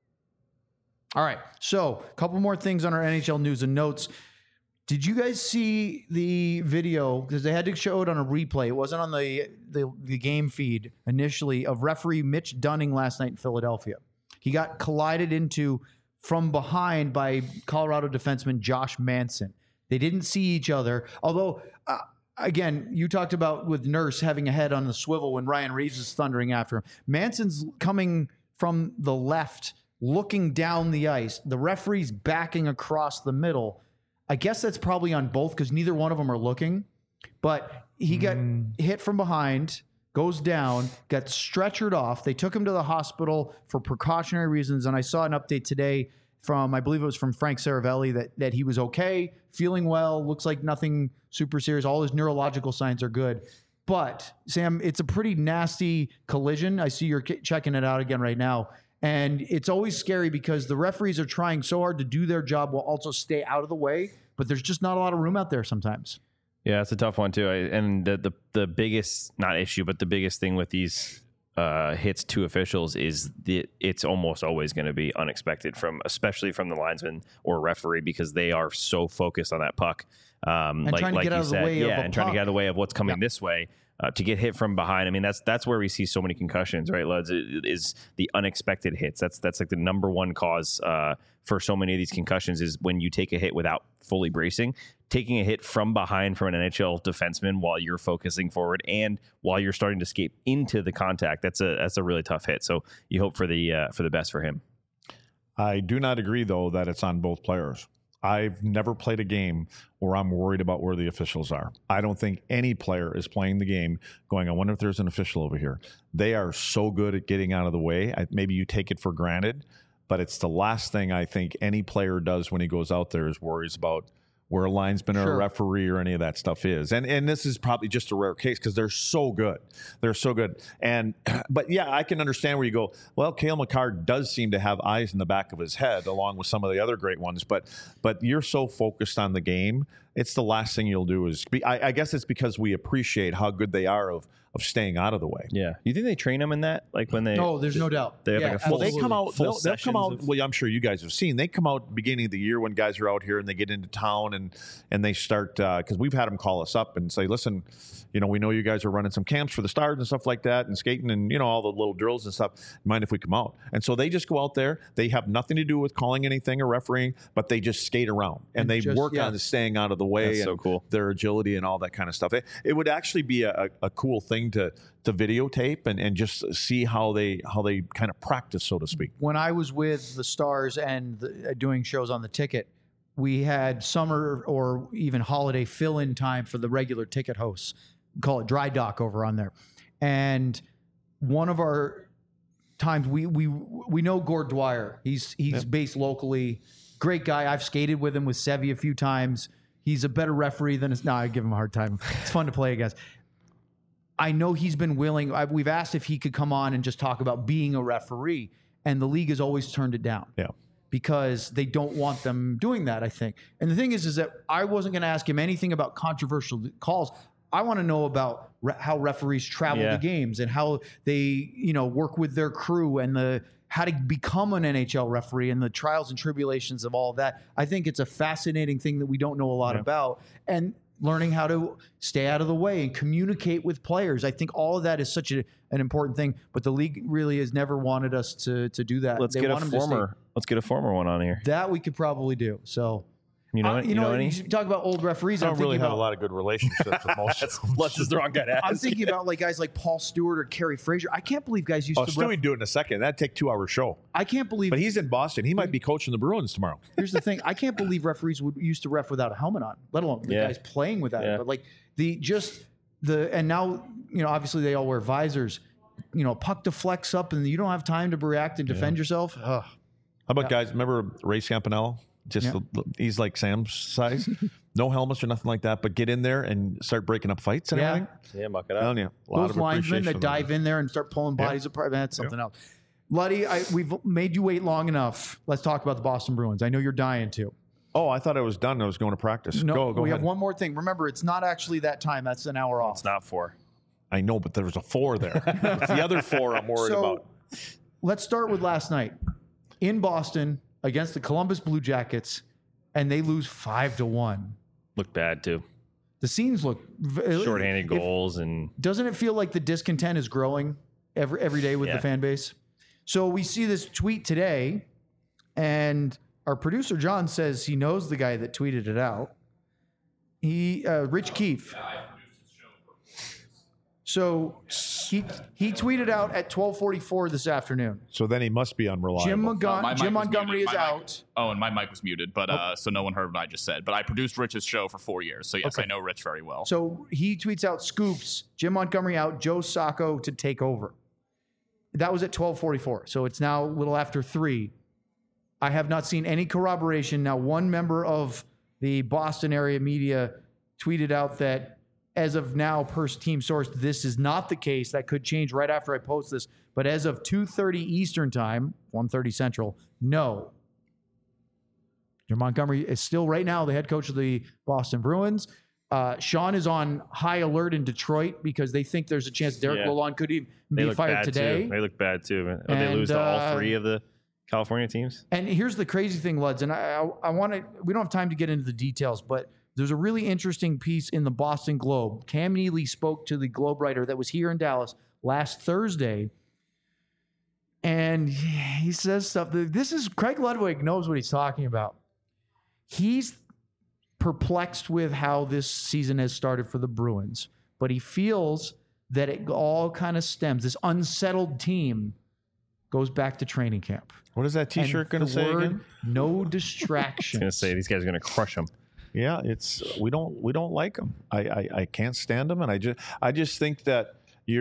All right, so a couple more things on our NHL news and notes. Did you guys see the video? Because they had to show it on a replay. It wasn't on the game feed initially, of referee Mitch Dunning last night in Philadelphia. He got collided into from behind by Colorado defenseman Josh Manson. They didn't see each other. Although, again, you talked about with Nurse having a head on the swivel when Ryan Reeves is thundering after him. Manson's coming from the left, looking down the ice. The referee's backing across the middle. I guess that's probably on both because neither one of them are looking. But he got hit from behind, goes down, got stretchered off. They took him to the hospital for precautionary reasons. And I saw an update today from, I believe it was from Frank Saravelli, that he was okay, feeling well, looks like nothing super serious. All his neurological signs are good. But, Sam, it's a pretty nasty collision. I see you're checking it out again right now. And it's always scary because the referees are trying so hard to do their job while also stay out of the way. But there's just not a lot of room out there sometimes. Yeah, it's a tough one too. And the biggest, not issue, but the biggest thing with these hits to officials is it's almost always going to be unexpected especially from the linesman or referee, because they are so focused on that puck. And trying to get out of the way of a puck. Trying to get out of the way of what's coming this way. To get hit from behind, I mean, that's where we see so many concussions, right, Luds? It is the unexpected hits. That's like the number one cause for so many of these concussions is when you take a hit without fully bracing. Taking a hit from behind from an NHL defenseman while you're focusing forward and while you're starting to escape into the contact, that's a really tough hit. So you hope for the best for him. I do not agree, though, that it's on both players. I've never played a game where I'm worried about where the officials are. I don't think any player is playing the game going, I wonder if there's an official over here. They are so good at getting out of the way. Maybe you take it for granted, but it's the last thing I think any player does when he goes out there is worries about where a linesman or a referee or any of that stuff is. And this is probably just a rare case because they're so good. They're so good. But yeah, I can understand where you go, well, Cale Makar does seem to have eyes in the back of his head along with some of the other great ones. But you're so focused on the game, it's the last thing you'll do is I guess it's because we appreciate how good they are of staying out of the way. Yeah. You think they train them in that? Like when they... No, there's no doubt. They have like a full, they come out, they'll come out, of... well, I'm sure you guys have seen, they come out beginning of the year when guys are out here and they get into town and they start, because we've had them call us up and say, listen, we know you guys are running some camps for the Stars and stuff like that and skating and, all the little drills and stuff. Mind if we come out? And so they just go out there. They have nothing to do with calling anything or refereeing, but they just skate around and they work on staying out of the way. That's and so cool. Their agility and all that kind of stuff. It would actually be a cool thing to videotape and just see how they kind of practice, so to speak. When I was with the Stars and doing shows on the ticket, we had summer or even holiday fill-in time for the regular ticket hosts. We call it dry dock over on there. And one of our times, we know Gord Dwyer. He's based locally. Great guy. I've skated with him with Sevy a few times. He's a better referee than I give him a hard time. It's fun to play against. I know he's been willing. We've asked if he could come on and just talk about being a referee, and the league has always turned it down. Yeah. Because they don't want them doing that, I think. And the thing is that I wasn't going to ask him anything about controversial calls. I want to know about how referees travel to games and how they, work with their crew and how to become an NHL referee and the trials and tribulations of all of that. I think it's a fascinating thing that we don't know a lot about. And learning how to stay out of the way and communicate with players. I think all of that is such an important thing, but the league really has never wanted us to do that. Let's get a former one on here. That we could probably do. So, you you talk about old referees. I don't really have a lot of good relationships with most. Let's is the wrong guy to ask. I'm thinking about guys like Paul Stewart or Kerry Fraser. I can't believe guys used to. Stewie do it in a second. That'd take 2 hour show. I can't believe. But he's in Boston. He might be coaching the Bruins tomorrow. Here's the thing. I can't believe referees used to ref without a helmet on, let alone the guys playing without it. But and now obviously they all wear visors. Puck deflects up and you don't have time to react and defend yourself. Ugh. How about guys? Remember Ray Scampanello? He's like Sam's size. no helmets or nothing like that, but get in there and start breaking up fights and everything. Yeah, muck it up. You, a lot Those of linesmen that appreciation dive in there and start pulling bodies apart, that's something else. Luddy, we've made you wait long enough. Let's talk about the Boston Bruins. I know you're dying to. Oh, I thought I was done. I was going to practice. No, go we ahead. have one more thing. Remember, it's not actually that time. That's an hour off. It's not 4. I know, but there was a 4 there. It's the other 4 I'm worried about. Let's start with last night in Boston against the Columbus Blue Jackets, and they lose 5-1. Looked bad too. The scenes look shorthanded goals, and doesn't it feel like the discontent is growing every day with the fan base? So we see this tweet today, and our producer John says he knows the guy that tweeted it out. Rich Keefe. So he tweeted out at 12:44 this afternoon. So then he must be unreliable. Jim Montgomery is out. And my mic was muted, but so no one heard what I just said. But I produced Rich's show for 4 years, so yes, I know Rich very well. So he tweets out scoops: Jim Montgomery out, Joe Sacco to take over. That was at 12:44. So it's now a little after 3. I have not seen any corroboration. Now, one member of the Boston area media tweeted out that as of now, per team source, this is not the case. That could change right after I post this. But as of 2:30 Eastern time, 1:30 Central, no. Jim Montgomery is still right now the head coach of the Boston Bruins. Sean is on high alert in Detroit because they think there's a chance Derek Lalonde could even be fired today. They look bad too. They lose to all 3 of the California teams. And here's the crazy thing, Luds, and I want to. We don't have time to get into the details, but there's a really interesting piece in the Boston Globe. Cam Neely spoke to the Globe writer that was here in Dallas last Thursday, and he says stuff. This is Craig Ludwig knows what he's talking about. He's perplexed with how this season has started for the Bruins, but he feels that it all kind of stems. This unsettled team goes back to training camp. What is that T-shirt going to say again? No distractions. I was going to say these guys are going to crush them. Yeah, we don't like them. I can't stand them, and I just think that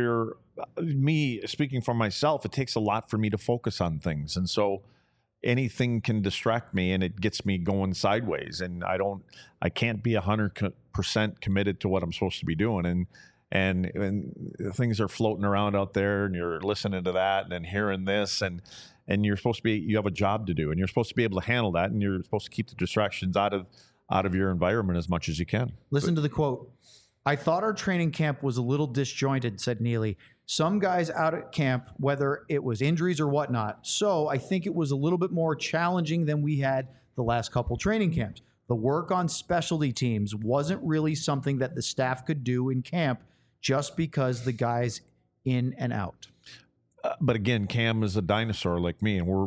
me speaking for myself. It takes a lot for me to focus on things, and so anything can distract me, and it gets me going sideways. And I can't be 100% committed to what I'm supposed to be doing, and things are floating around out there, and you're listening to that and then hearing this, and you're supposed to be, you have a job to do, and you're supposed to be able to handle that, and you're supposed to keep the distractions out of your environment as much as you can. Listen to the quote. I thought our training camp was a little disjointed, said Neely. Some guys out at camp, whether it was injuries or whatnot. So I think it was a little bit more challenging than we had the last couple training camps. The work on specialty teams wasn't really something that the staff could do in camp just because the guys in and out. But again, Cam is a dinosaur like me, and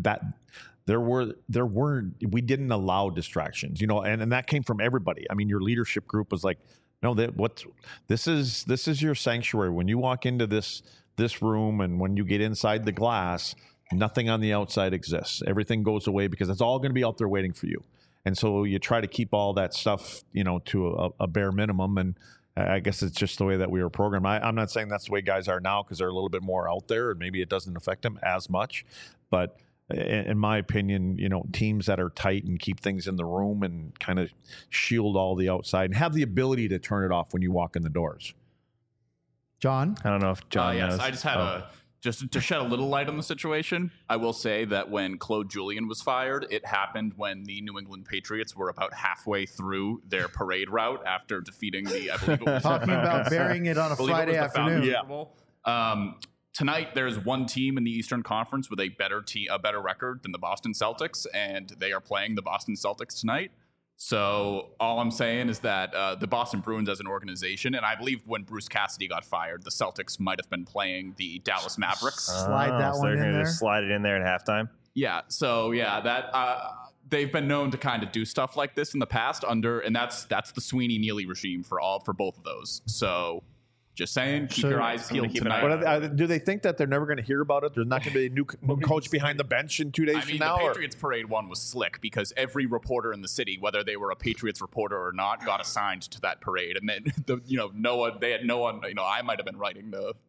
we didn't allow distractions, and that came from everybody. I mean, your leadership group was like, no, this is your sanctuary. When you walk into this room, and when you get inside the glass, nothing on the outside exists. Everything goes away because it's all going to be out there waiting for you. And so you try to keep all that stuff, to a bare minimum. And I guess it's just the way that we were programmed. I'm not saying that's the way guys are now because they're a little bit more out there, and maybe it doesn't affect them as much. But in my opinion, teams that are tight and keep things in the room and kind of shield all the outside and have the ability to turn it off when you walk in the doors. John? I don't know if John knows. Yes, I just had just to shed a little light on the situation. I will say that when Claude Julien was fired, it happened when the New England Patriots were about halfway through their parade route after defeating the, I believe it was talking about burying it on a Friday afternoon. Yeah. Tonight, there's one team in the Eastern Conference with a better record than the Boston Celtics, and they are playing the Boston Celtics tonight. So all I'm saying is that the Boston Bruins as an organization, and I believe when Bruce Cassidy got fired, the Celtics might have been playing the Dallas Mavericks. Slide that one in there. Just slide it in there at halftime. Yeah. So that they've been known to kind of do stuff like this in the past and that's the Sweeney Neely regime for both of those. So. Just saying, keep your eyes peeled tonight. Do they think that they're never going to hear about it? There's not going to be a new coach behind the bench in 2 days from now? The Patriots parade one was slick because every reporter in the city, whether they were a Patriots reporter or not, got assigned to that parade. And then, they had no one, I might have been writing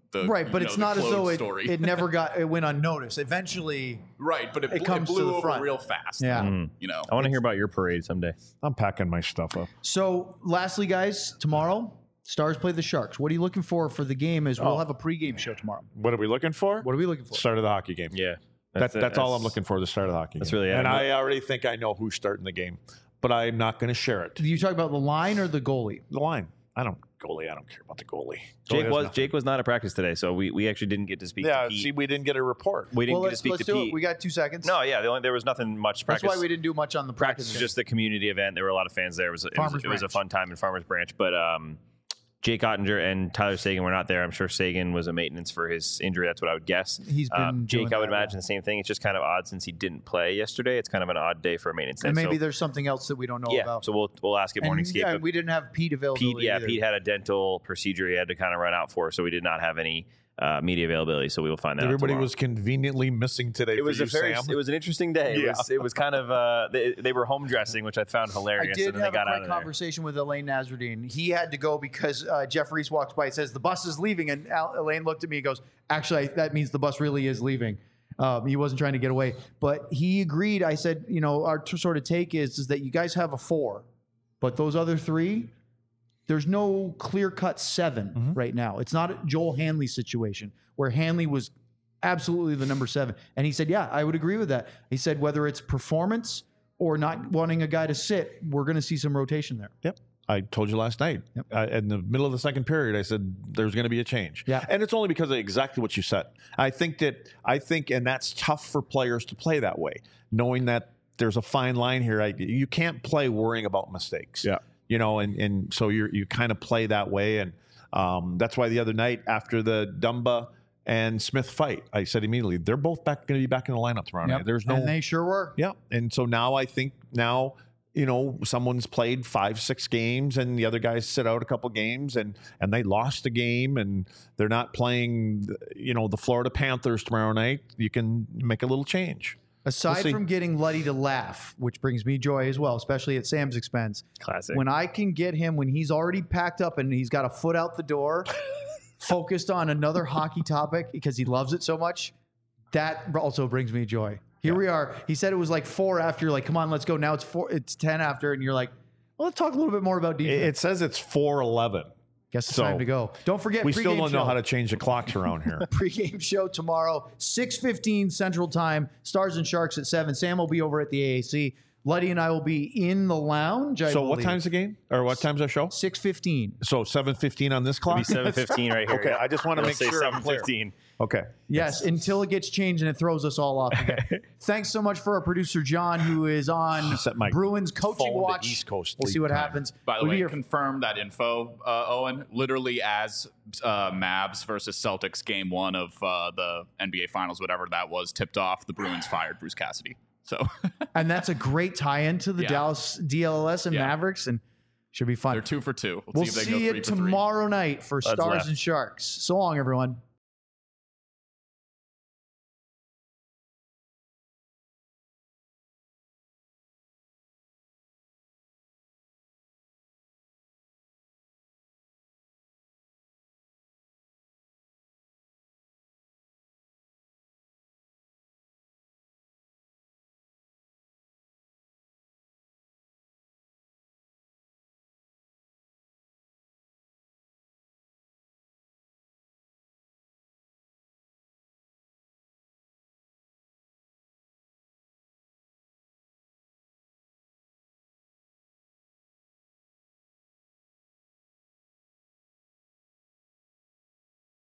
right, but it's not as though story. it went unnoticed. Eventually, right, but it comes blew to the over front real fast. Yeah, I want to hear about your parade someday. I'm packing my stuff up. So, lastly, guys, tomorrow Stars play the Sharks. What are you looking for the game? We'll have a pregame show tomorrow. What are we looking for? What are we looking for? Start of the hockey game. Yeah, that's all I'm looking for. The start of the hockey. That's game. really, and I already think I know who's starting the game, but I'm not going to share it. Do you talk about the line or the goalie? The line. I don't care about the goalie. Jake was not at practice today, so we actually didn't get to speak. Yeah, to Pete. see, we didn't get a report. We didn't get to speak let's to do Pete. It. We got 2 seconds. No, yeah, there was nothing much practice. That's why we didn't do much on the practice. It was just the community event. There were a lot of fans there. It was a fun time in Farmers Branch, but Jake Ottinger and Tyler Seguin were not there. I'm sure Seguin was a maintenance for his injury. That's what I would guess. He's been Jake, I would imagine the same thing. It's just kind of odd since he didn't play yesterday. It's kind of an odd day for a maintenance. And maybe there's something else that we don't know about. So we'll ask at Morningscape. Yeah, we didn't have Pete available. Pete had a dental procedure he had to kind of run out for, so we did not have any media availability. So we will find that. Everybody was conveniently missing today. It was Sam. It was an interesting day. Yeah. It was kind of they were home dressing, which I found hilarious. I did and then have they got a out great of there. conversation with Elaine Nazardine. He had to go because Jeff Reese walks by and says the bus is leaving, and Elaine looked at me and goes, "Actually, that means the bus really is leaving." He wasn't trying to get away, but he agreed. I said, our sort of take is that you guys have a 4, but those other 3. There's no clear-cut 7 right now. It's not a Joel Hanley situation where Hanley was absolutely the number 7. And he said, yeah, I would agree with that. He said, whether it's performance or not wanting a guy to sit, we're going to see some rotation there. Yep. I told you last night. Yep. In the middle of the second period, I said there's going to be a change. Yeah. And it's only because of exactly what you said. I think, and that's tough for players to play that way, knowing that there's a fine line here. You can't play worrying about mistakes. Yeah. And so you kind of play that way. And that's why the other night after the Dumba and Smith fight, I said immediately, they're both going to be back in the lineup tomorrow night. There's no, and they sure were. Yeah. And so now I think someone's played 5-6 games and the other guys sit out a couple games and they lost a game and they're not playing, the Florida Panthers tomorrow night. You can make a little change. Aside from getting Luddy to laugh, which brings me joy as well, especially at Sam's expense. Classic. When I can get him, when he's already packed up and he's got a foot out the door, focused on another hockey topic because he loves it so much, that also brings me joy. Here we are. He said it was like 4 after. You're like, come on, let's go. Now it's 4. It's 10 after, and you're like, well, let's talk a little bit more about defense. It says it's 4:11. Guess it's time to go. Don't forget, we still don't know show. how to change the clocks around here. Pregame show tomorrow, 6:15 Central Time. Stars and Sharks at 7. Sam will be over at the AAC. Luddy and I will be in the lounge. So what time's the game? Or what time's our show? 6:15. So 7:15 on this clock? It'll be 7:15 right here. Okay, I just want to make sure I'm clear. 7:15. Okay. Yes, until it gets changed and it throws us all off again. Thanks so much for our producer, John, who is on Bruins coaching watch. East Coast we'll see what happens. By the way, confirm that info, Owen. Literally as Mavs versus Celtics game 1 of the NBA Finals, whatever that was, tipped off, the Bruins fired Bruce Cassidy. So, and that's a great tie-in to the Dallas DLS and Mavericks, and should be fun. They're 2 for 2. We'll see you tomorrow night for Stars and Sharks. So long, everyone.